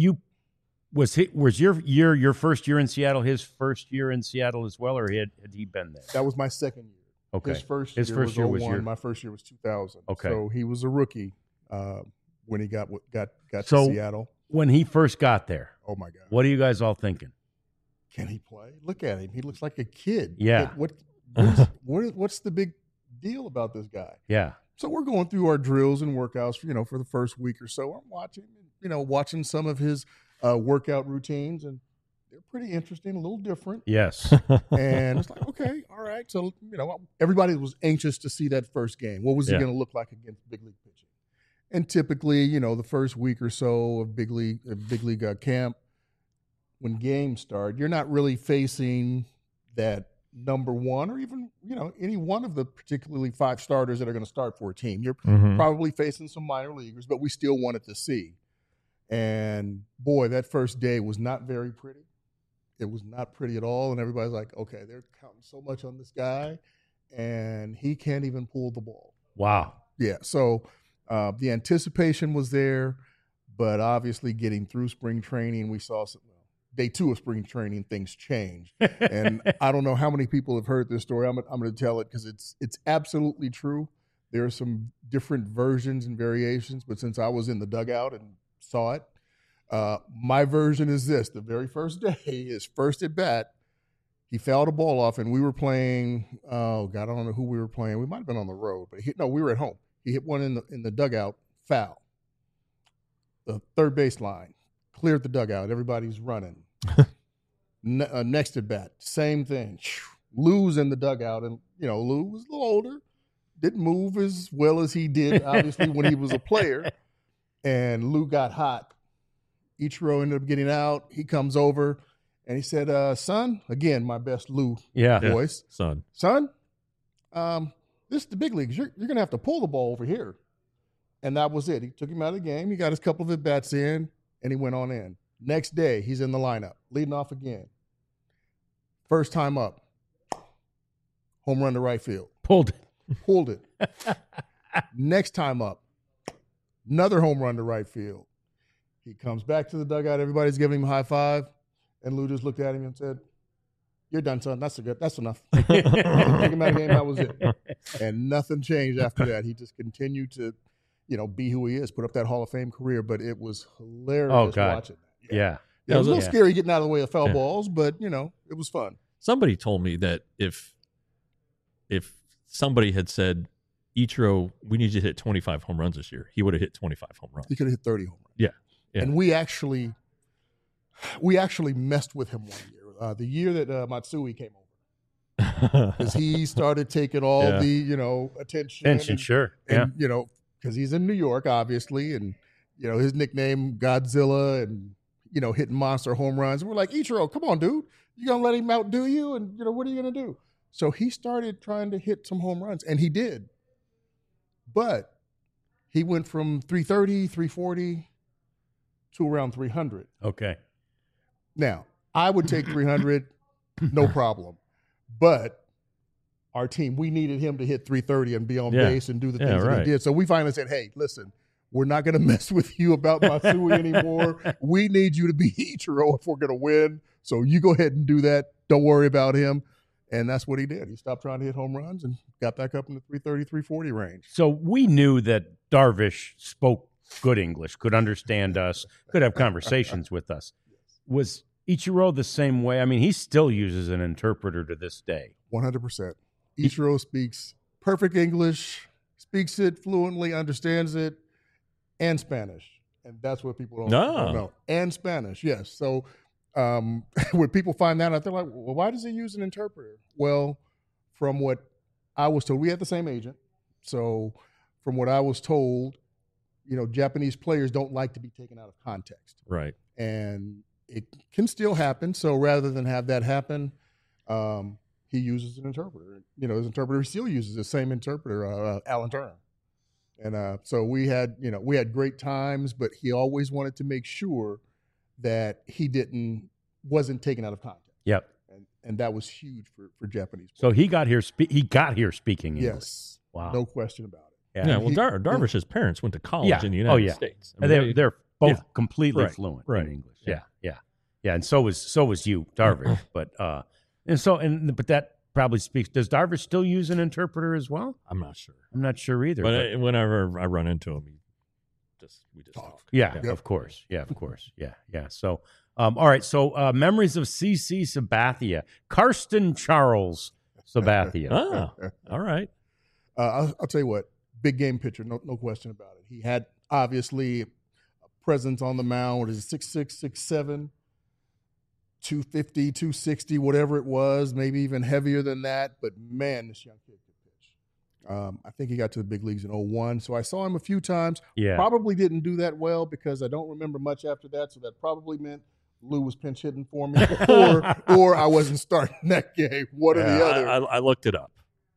was your first year in Seattle his first year in Seattle as well, or had he been there? That was my second year. Okay. His first year was 2001. My first year was 2000. Okay. So he was a rookie when he got to Seattle. When he first got there, oh my God, what are you guys all thinking? Can he play? Look at him. He looks like a kid. Yeah. What's the big deal about this guy? Yeah. So we're going through our drills and workouts, for the first week or so. I'm watching some of his workout routines, and they're pretty interesting, a little different. Yes. And it's like, okay, all right. So, everybody was anxious to see that first game. What was he going to look like against big league pitching? And typically, the first week or so of big league camp, when games start, you're not really facing that number one or even, any one of the particularly 5 starters that are going to start for a team. You're probably facing some minor leaguers, but we still wanted to see. And boy, that first day was not very pretty. It was not pretty at all. And everybody's like, okay, they're counting so much on this guy, and he can't even pull the ball. Wow. Yeah. So the anticipation was there, but obviously getting through spring training, we saw day 2 of spring training, things changed. And I don't know how many people have heard this story. I'm going to tell it because it's absolutely true. There are some different versions and variations, but since I was in the dugout and saw it, my version is this. The very first day, his first at bat, he fouled a ball off, and we were playing, oh, God, I don't know who we were playing. We might have been on the road, but we were at home. He hit one in the dugout, foul. The third base line, cleared the dugout. Everybody's running. Next at bat, same thing. Lou's in the dugout, and Lou was a little older, didn't move as well as he did, obviously, when he was a player. And Lou got hot. Ichiro ended up getting out. He comes over, and he said, "Son," again, my best Lou voice. Son, this is the big leagues. You're going to have to pull the ball over here. And that was it. He took him out of the game. He got his couple of at-bats in, and he went on in. Next day, he's in the lineup, leading off again. First time up, home run to right field. Pulled it. Next time up, another home run to right field. He comes back to the dugout. Everybody's giving him a high five. And Lou just looked at him and said, "You're done, son. That's enough." Take him out of the game. That was it. And nothing changed after that. He just continued to, be who he is, put up that Hall of Fame career. But it was hilarious watching that. Yeah. It was a little scary getting out of the way of foul balls, but, it was fun. Somebody told me that if somebody had said, Ichiro, we need you to hit 25 home runs this year, he would have hit 25 home runs. He could have hit 30 home runs. Yeah. And we actually messed with him one year. The year that Matsui came over. Because he started taking all the, attention. Sure. And, because he's in New York, obviously, and, his nickname, Godzilla, and, hitting monster home runs. And we're like, Ichiro, come on, dude. You going to let him outdo you? And, what are you going to do? So he started trying to hit some home runs, and he did. But he went from 330, 340 to around 300. Okay. Now, I would take 300, no problem. But our team, we needed him to hit 330 and be on base and do the things that he did. So we finally said, hey, listen, we're not going to mess with you about Matsui anymore. We need you to be Ichiro if we're going to win. So you go ahead and do that. Don't worry about him. And that's what he did. He stopped trying to hit home runs and got back up in the 330, 340 range. So we knew that Darvish spoke good English, could understand us, could have conversations with us. Was Ichiro the same way? I mean, he still uses an interpreter to this day. 100%. Ichiro speaks perfect English, speaks it fluently, understands it, and Spanish. And that's what people don't know. And Spanish, yes. So when people find that out, they're like, well, why does he use an interpreter? Well, from what I was told, we had the same agent. So from what I was told, Japanese players don't like to be taken out of context. Right. And it can still happen. So rather than have that happen, he uses an interpreter. His interpreter still uses the same interpreter, Alan Turner. And so we had great times, but he always wanted to make sure that he wasn't taken out of context. Yep. And that was huge for Japanese players. So he got here speaking English. Yes. Wow. No question about it. Yeah. Well, Darvish's parents went to college in the United States. I mean, they're both completely fluent in English. Yeah. And so was you, Darvish. But but that probably speaks. Does Darvish still use an interpreter as well? I'm not sure. I'm not sure either. But whenever I run into him, we just talk. Yeah, of course. Yeah, of course. Yeah. So, all right. So, memories of CC Sabathia, Karsten Charles Sabathia. All right. I'll tell you what, big game pitcher, no question about it. He had obviously a presence on the mound. What is it, 6'6", 6'7", 250, 260, whatever it was, maybe even heavier than that. But man, this young kid could pitch. I think he got to the big leagues in 2001. So I saw him a few times. Yeah. Probably didn't do that well because I don't remember much after that. So that probably meant Lou was pinch hitting for me, or I wasn't starting that game. One or the other. I looked it up.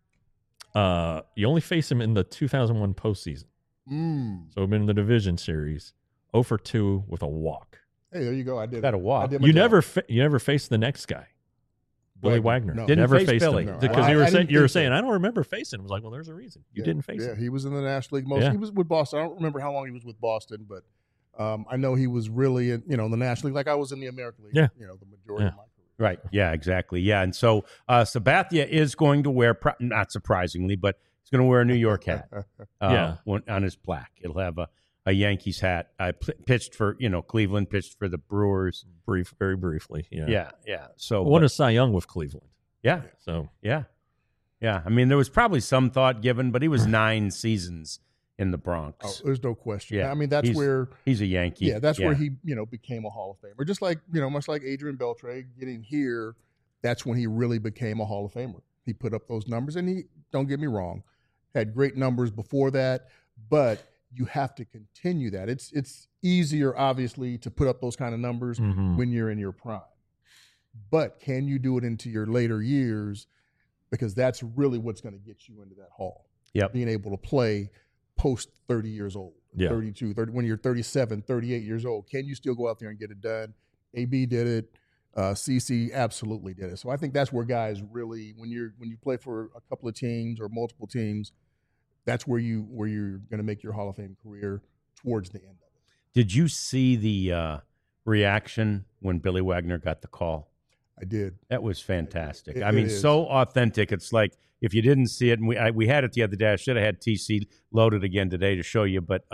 You only face him in the 2001 postseason. So in the division series, 0-for-2 with a walk. Hey, there you go. I did. Got a walk. You never faced the next guy, Billy Wagner. No. Didn't never face faced Billy. him No. because you were saying I don't remember facing him. I was like, well, there's a reason you didn't face him. Yeah, he was in the National League. He was with Boston. I don't remember how long he was with Boston, but I know he was really in the National League, like I was in the American League. Yeah. The majority of my career. Right. Yeah, exactly. Yeah. And so Sabathia is going to wear, not surprisingly, but he's going to wear a New York hat on his plaque. It'll have a Yankees hat. I pitched for, Cleveland, pitched for the Brewers. Very briefly. Yeah. So won a Cy Young with Cleveland. Yeah. So. Yeah. I mean, there was probably some thought given, but he was 9 seasons in the Bronx. Oh, there's no question. Yeah. I mean, that's where he's a Yankee. Yeah, that's where he, became a Hall of Famer. Just like, much like Adrian Beltre getting here, that's when he really became a Hall of Famer. He put up those numbers, and he, don't get me wrong, had great numbers before that, but you have to continue that. It's easier, obviously, to put up those kind of numbers when you're in your prime. But can you do it into your later years? Because that's really what's going to get you into that Hall. Yep. Being able to play post 30 years old, 32, 30, when you're 37, 38 years old. Can you still go out there and get it done? AB did it. CC absolutely did it. So I think that's where guys really, when you play for a couple of teams or multiple teams, that's where you're going to make your Hall of Fame career towards the end of it. Did you see the reaction when Billy Wagner got the call? I did. That was fantastic. So authentic. It's like if you didn't see it, and we had it the other day. I should have had TC loaded again today to show you, but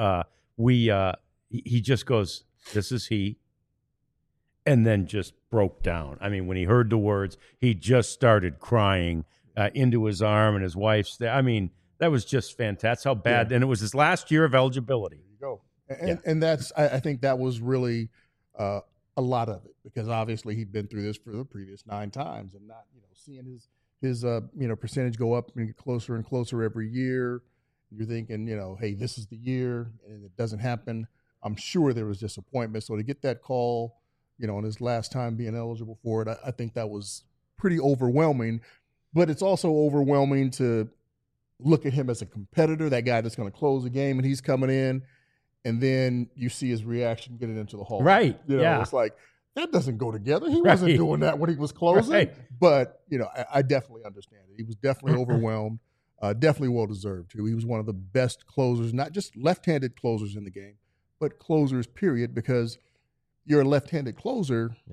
he just goes, "This is he," and then just broke down. I mean, when he heard the words, he just started crying into his arm, and his wife's there. I mean, that was just fantastic. That's how bad. And it was his last year of eligibility. There you go. And that's I think that was really a lot of it, because obviously he'd been through this for the previous 9 times, and not seeing his percentage go up and get closer and closer every year. You're thinking, hey, this is the year, and it doesn't happen. I'm sure there was disappointment. So to get that call, on his last time being eligible for it, I think that was pretty overwhelming. But it's also overwhelming to look at him as a competitor, that guy that's going to close the game, and he's coming in, and then you see his reaction getting into the Hall. Right. It's like, that doesn't go together. He wasn't doing that when he was closing. Right. But, I definitely understand it. He was definitely overwhelmed, definitely well-deserved, too. He was one of the best closers, not just left-handed closers in the game, but closers, period, because you're a left-handed closer. Yeah.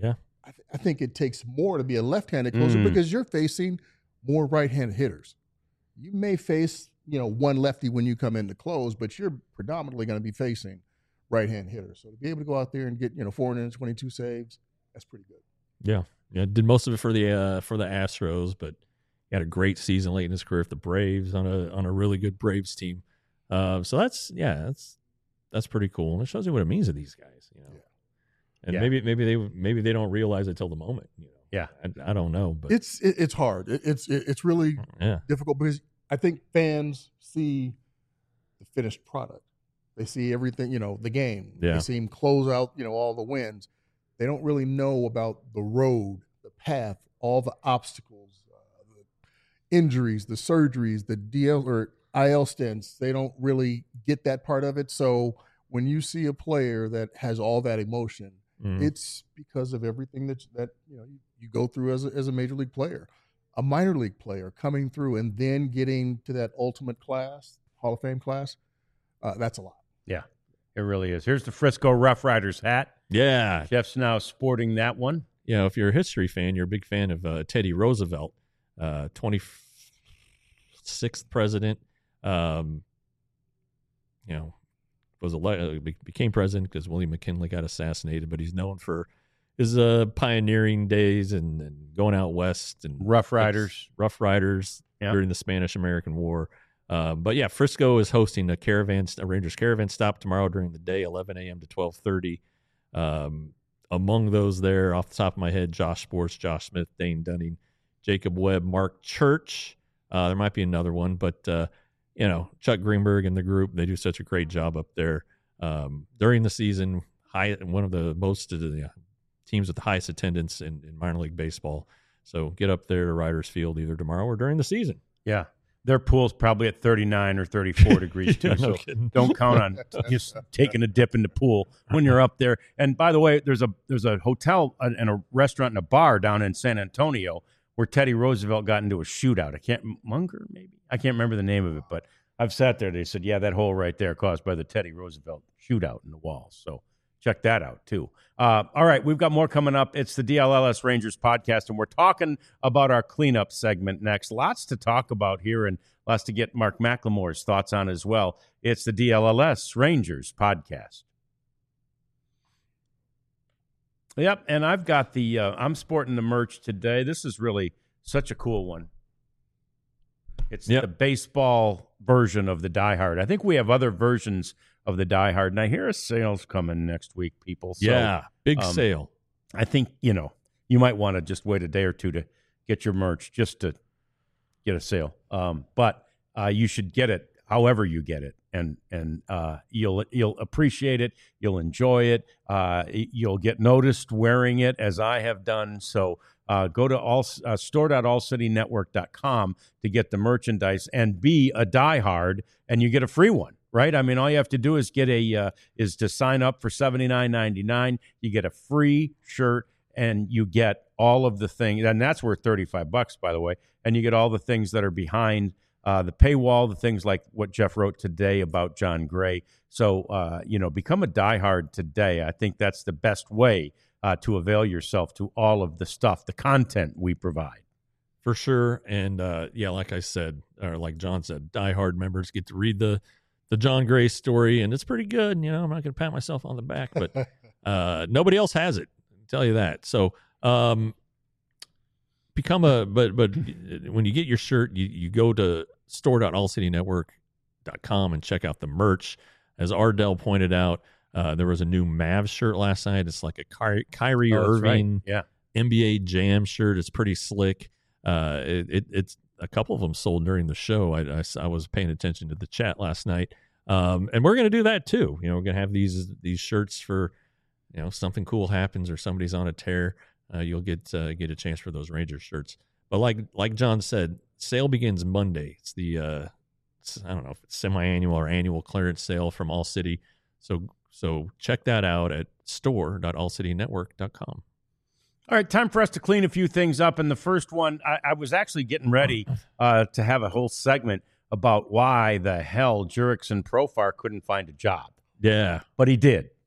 I think it takes more to be a left-handed closer because you're facing more right-handed hitters. You may face, one lefty when you come in to close, but you're predominantly going to be facing right-hand hitters. So to be able to go out there and get, 422 saves, that's pretty good. Yeah. Did most of it for the Astros, but he had a great season late in his career for the Braves on a really good Braves team. So that's pretty cool, and it shows you what it means to these guys, Yeah. And maybe they don't realize it till the moment, Yeah, I don't know, but it's hard. It's really difficult because I think fans see the finished product. They see everything, the game. Yeah. They see him close out, all the wins. They don't really know about the road, the path, all the obstacles, the injuries, the surgeries, the DL or IL stints. They don't really get that part of it. So when you see a player that has all that emotion, it's because of everything that you go through as a major league player, a minor league player coming through and then getting to that ultimate class, Hall of Fame class. That's a lot. Yeah, it really is. Here's the Frisco Rough Riders hat. Yeah. Jeff's now sporting that one. If you're a history fan, you're a big fan of Teddy Roosevelt, 26th president. Became president because William McKinley got assassinated, but he's known for his pioneering days and going out west and Rough Riders during the Spanish-American War. But yeah, Frisco is hosting a Rangers caravan stop tomorrow during the day, 11 a.m. to 12:30. Among those there, off the top of my head, Josh Sports, Josh Smith, Dane Dunning, Jacob Webb, Mark Church. There might be another one, but Chuck Greenberg and the group, they do such a great job up there during the season. One of the most teams with the highest attendance in minor league baseball. So get up there to Riders Field either tomorrow or during the season. Yeah. Their pool's probably at 39 or 34 degrees too, so don't count on just taking a dip in the pool when you're up there. And by the way, there's a hotel and a restaurant and a bar down in San Antonio where Teddy Roosevelt got into a shootout. Munger maybe? I can't remember the name of it, but I've sat there. They said, yeah, that hole right there caused by the Teddy Roosevelt shootout in the walls. So check that out, too. All right, we've got more coming up. It's the DLLS Rangers podcast, and we're talking about our cleanup segment next. Lots to talk about here and lots to get Mark McLemore's thoughts on as well. It's the DLLS Rangers podcast. Yep, and I've got I'm sporting the merch today. This is really such a cool one. It's the baseball version of the Die Hard. I think we have other versions of the Die Hard. And I hear a sale's coming next week, people. So, big sale. I think, you might want to just wait a day or two to get your merch just to get a sale. But you should get it however you get it. And you'll appreciate it. You'll enjoy it. You'll get noticed wearing it as I have done. So go to store.allcitynetwork.com to get the merchandise and be a diehard, and you get a free one, right? I mean, all you have to do is is to sign up for $79.99. You get a free shirt, and you get all of the things, and that's worth $35, by the way. And you get all the things that are behind the paywall, the things like what Jeff wrote today about John Gray. So, become a diehard today. I think that's the best way to avail yourself to all of the stuff, the content we provide. For sure. And like I said, or like John said, diehard members get to read the John Gray story, and it's pretty good. I'm not going to pat myself on the back, but nobody else has it. I'll tell you that. So but when you get your shirt, you go to store.allcitynetwork.com and check out the merch. As Ardell pointed out, there was a new Mavs shirt last night. It's like a Kyrie Irving NBA Jam shirt. It's pretty slick. It's a couple of them sold during the show. I was paying attention to the chat last night, and we're going to do that too. We're going to have these shirts for something cool happens or somebody's on a tear. You'll get a chance for those Rangers shirts. But like John said, sale begins Monday. It's the I don't know if it's semi-annual or annual clearance sale from All City. So check that out at store.allcitynetwork.com. All right, time for us to clean a few things up. And the first one, I was actually getting ready to have a whole segment about why the hell Jurickson Profar couldn't find a job. Yeah. But he did.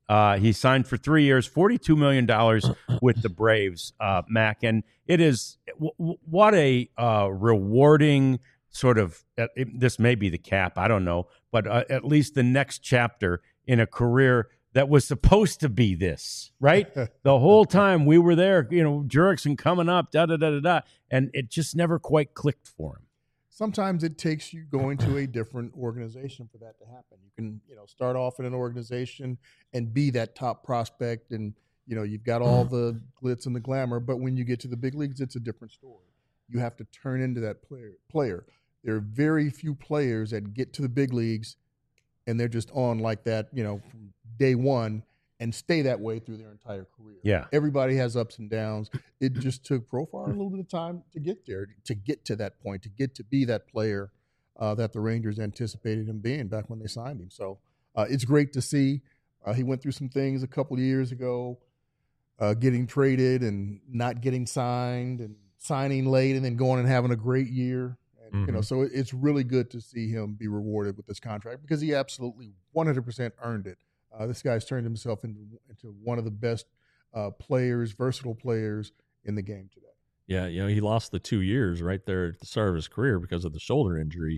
He signed for 3 years, $42 million with the Braves, Mac. And it is what a rewarding sort of this may be the cap, I don't know, but at least the next chapter in a career that was supposed to be this, right? The whole time we were there, Jurickson coming up, and it just never quite clicked for him. Sometimes it takes you going to a different organization for that to happen. You can, start off in an organization and be that top prospect, and you've got all the glitz and the glamour. But when you get to the big leagues, it's a different story. You have to turn into that player. There are very few players that get to the big leagues and they're just on like that, from day one and stay that way through their entire career. Yeah. Everybody has ups and downs. It just took Profar a little bit of time to get there, to get to that point, to get to be that player that the Rangers anticipated him being back when they signed him. So it's great to see. He went through some things a couple of years ago, getting traded and not getting signed and signing late and then going and having a great year. And, so it's really good to see him be rewarded with this contract because he absolutely 100% earned it. This guy's turned himself into one of the best players, versatile players in the game today. Yeah, he lost the 2 years right there at the start of his career because of the shoulder injury.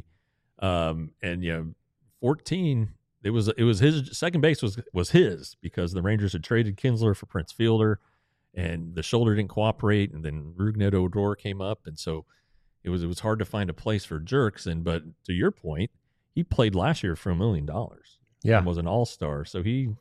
14, it was his second base was his because the Rangers had traded Kinsler for Prince Fielder, and the shoulder didn't cooperate, and then Rougned Odor came up, and so it was hard to find a place for Jurickson. But to your point, he played last year for $1 million. Yeah, and was an all-star, so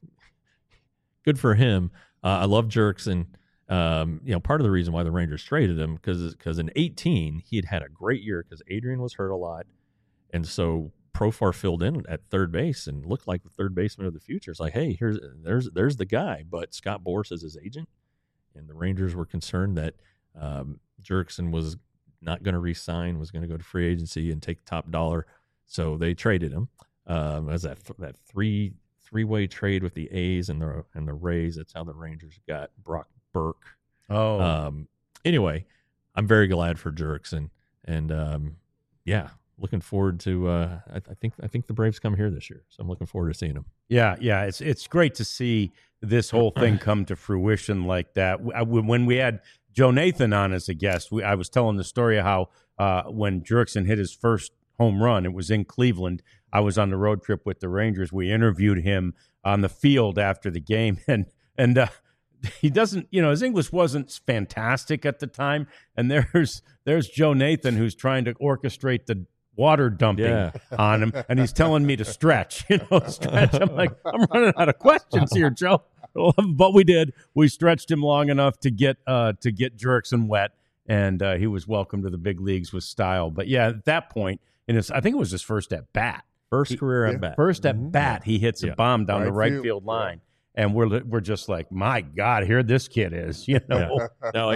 good for him. I love Jurickson. Part of the reason why the Rangers traded him because in 2018 he had a great year because Adrian was hurt a lot, and so Profar filled in at third base and looked like the third baseman of the future. It's like, hey, there's the guy. But Scott Boras is his agent, and the Rangers were concerned that Jurickson was not going to re-sign, was going to go to free agency and take top dollar, so they traded him. As that three-way trade with the A's and the Rays. That's how the Rangers got Brock Burke. Anyway, I'm very glad for Jurickson, and looking forward to. I think the Braves come here this year, so I'm looking forward to seeing them. Yeah, it's great to see this whole thing come to fruition like that. When we had Joe Nathan on as a guest, I was telling the story of how when Jurickson hit his first home run, it was in Cleveland. I was on the road trip with the Rangers. We interviewed him on the field after the game, and he doesn't, his English wasn't fantastic at the time. And there's Joe Nathan who's trying to orchestrate the water dumping on him, and he's telling me to stretch. I'm like, I'm running out of questions here, Joe. But we did. We stretched him long enough to get Jurickson wet, and he was welcome to the big leagues with style. But yeah, at that point, I think it was his first at bat. Career at bat. First at bat, he hits a bomb down the right field line, and we're just like, my God, here this kid is. No,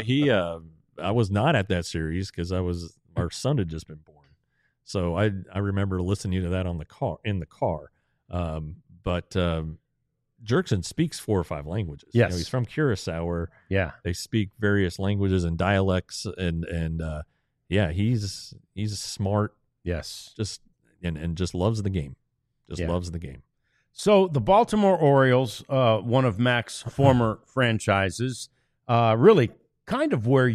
I was not at that series because our son had just been born, so I remember listening to that in the car. But Jurickson speaks 4 or 5 languages. Yes, he's from Curacao, where they speak various languages and dialects, and he's smart. Yes, and just loves the game. Loves the game. So the Baltimore Orioles, one of Mac's former franchises, really kind of where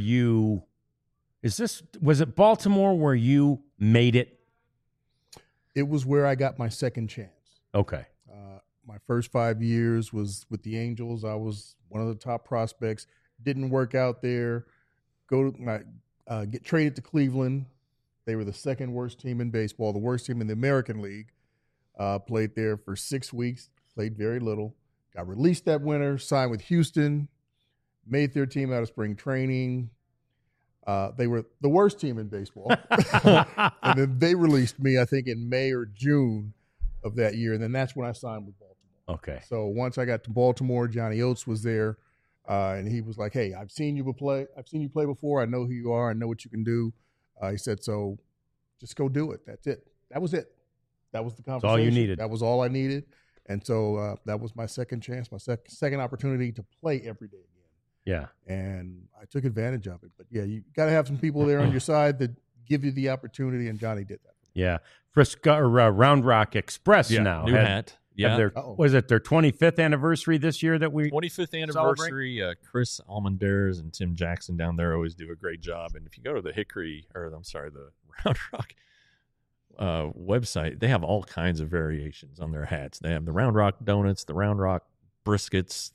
was it Baltimore where you made it? It was where I got my second chance. Okay. My first 5 years was with the Angels. I was one of the top prospects. Didn't work out there. Get traded to Cleveland. They were the second worst team in baseball, the worst team in the American League. Played there for 6 weeks, played very little. Got released that winter, signed with Houston, made their team out of spring training. They were the worst team in baseball. And then they released me, I think, in May or June of that year. And then that's when I signed with Baltimore. Okay. So once I got to Baltimore, Johnny Oates was there. And he was like, hey, I've seen you play before. I know who you are. I know what you can do. He said, so just go do it. That's it. That was it. That was the conversation. That's all you needed. That was all I needed. And so that was my second chance, my second opportunity to play every day again. Yeah. And I took advantage of it. But, yeah, you got to have some people there on your side that give you the opportunity, and Johnny did that. Yeah. Frisco, Round Rock Express now. New hat. Yeah. Was it their 25th anniversary this year that we 25th anniversary? Chris Almendares and Tim Jackson down there always do a great job. And if you go to the the Round Rock website, they have all kinds of variations on their hats. They have the Round Rock donuts, the Round Rock briskets,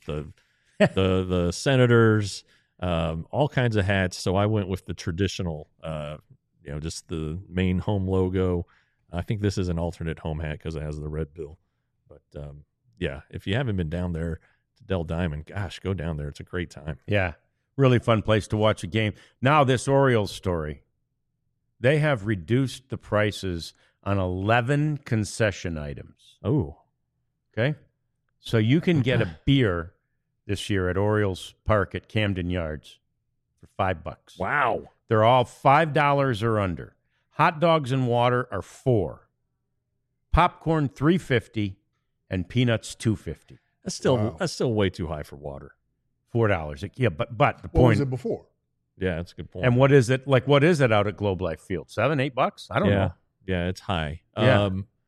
the Senators, all kinds of hats. So I went with the traditional, just the main home logo. I think this is an alternate home hat because it has the red bill. But if you haven't been down there to Dell Diamond, gosh, go down there. It's a great time. Yeah, really fun place to watch a game. Now this Orioles story, they have reduced the prices on 11 concession items. Oh, okay. So you can get a beer this year at Orioles Park at Camden Yards for $5. Wow. They're all $5 or under. Hot dogs and water are $4. Popcorn $3.50 and peanuts $2.50. That's still way too high for water. $4. Yeah, but the point. What was it before? Yeah, that's a good point. And what is it like? What is it out at Globe Life Field? $7-8? I don't know. Yeah, it's high. Yeah.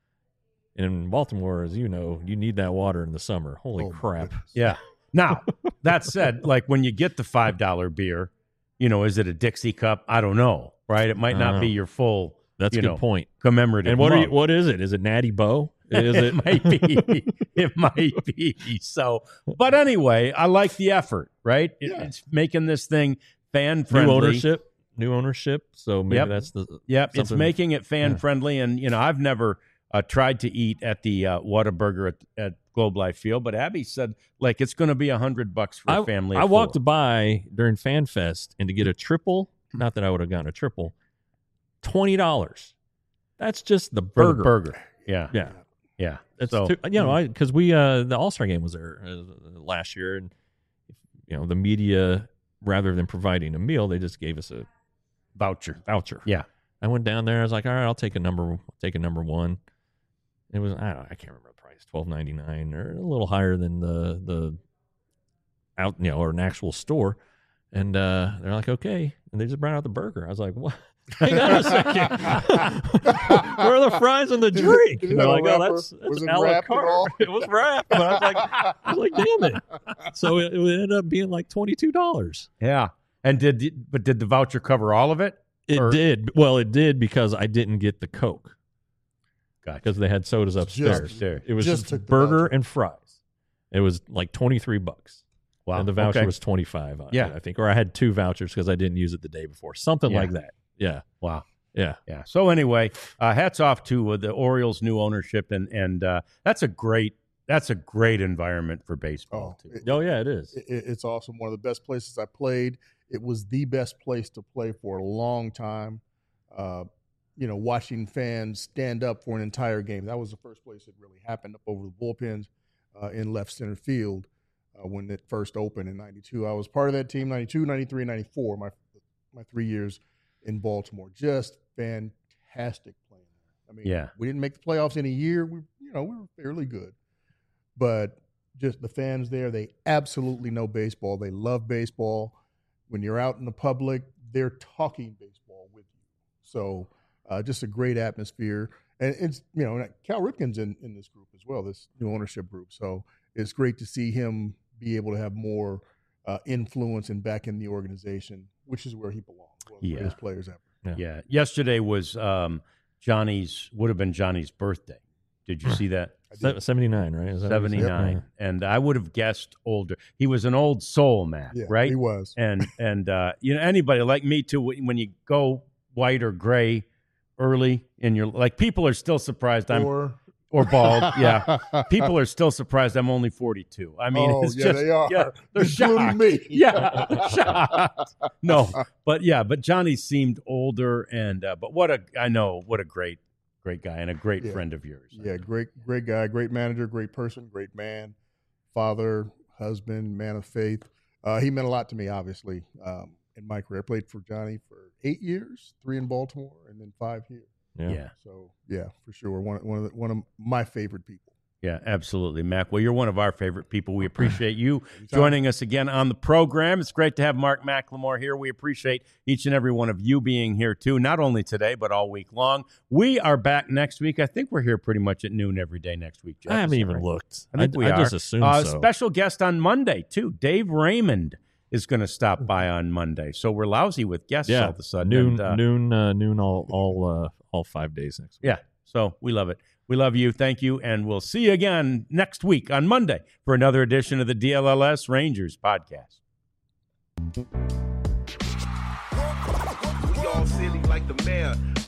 In Baltimore, as you know, you need that water in the summer. Holy crap! Yeah. Now that said, like when you get the $5 beer, is it a Dixie cup? I don't know. Right? It might not be your full. That's a good point. Commemorative. And what is it? Is it Natty Bo? It might be. It might be. So, but anyway, I like the effort. Right? It's making this thing fan friendly. New ownership. So maybe that's the. Yep. It's making it fan friendly, and I've never tried to eat at the Whataburger at Globe Life Field, but Abby said like it's going to be $100 for a family. I walked by during Fan Fest and to get a triple. Not that I would have gotten a triple. $20. That's just the burger. The burger. Yeah. That's so because the All-Star game was there last year, and the media, rather than providing a meal, they just gave us a voucher. Yeah. I went down there. I was like, all right, I'll take a number one. It was I can't remember the price, $12.99 or a little higher than the out or an actual store. And they're like, okay, and they just brought out the burger. I was like, what? Hang on a second. Where are the fries and the drink? Did They're like, was it a la wrapped at all? carte. It was wrapped. But I was like, damn it. So it ended up being like $22. Yeah. And did the voucher cover all of it? It did. Well, it did because I didn't get the Coke. Gotcha. Because they had sodas upstairs. It was just burger and fries. It was like $23. Wow. And the voucher was $25 on it, I think. Or I had 2 vouchers because I didn't use it the day before. Something like that. Yeah. Wow. Yeah. So anyway, hats off to the Orioles' new ownership, and that's a great environment for baseball too. It is. It's awesome. One of the best places I played. It was the best place to play for a long time. Watching fans stand up for an entire game. That was the first place it really happened, up over the bullpens in left center field when it first opened in 92. I was part of that team, 92, 93, 94, my 3 years in Baltimore. Just fantastic playing there. I mean, we didn't make the playoffs in a year. We were fairly good. But just the fans there, they absolutely know baseball. They love baseball. When you're out in the public, they're talking baseball with you. So just a great atmosphere. And it's, Cal Ripken's in this group as well, this new ownership group. So it's great to see him be able to have more influence and back in the organization, which is where he belongs. One of the greatest players ever. Yeah. Yesterday was would have been Johnny's birthday. Did you see that? 79, right? 79. And I would have guessed older. He was an old soul, Matt, right? He was. And anybody like me too, when you go white or gray early in your, like, people are still surprised or bald. Yeah. People are still surprised I'm only 42. I mean, it's just, they are. They're shocked. Me. Yeah. Shocked. No, but Johnny seemed older but what a great guy and a great friend of yours. Yeah. Great guy, great manager, great person, great man, father, husband, man of faith. He meant a lot to me, obviously, in my career. I played for Johnny for 8 years, 3 in Baltimore and then 5 here. Yeah. So for sure, one of my favorite people. Yeah, absolutely, Mac. Well, you're one of our favorite people. We appreciate you joining us again on the program. It's great to have Mark McLemore here. We appreciate each and every one of you being here, too, not only today, but all week long. We are back next week. I think we're here pretty much at noon every day next week, Jeff. I haven't even looked. I think we are. Just assumed so. Special guest on Monday, too. Dave Raymond is going to stop by on Monday. So we're lousy with guests all of a sudden. Noon all 5 days next week. Yeah, so we love it. We love you. Thank you. And we'll see you again next week on Monday for another edition of the DLLS Rangers podcast. We all silly like the mayor.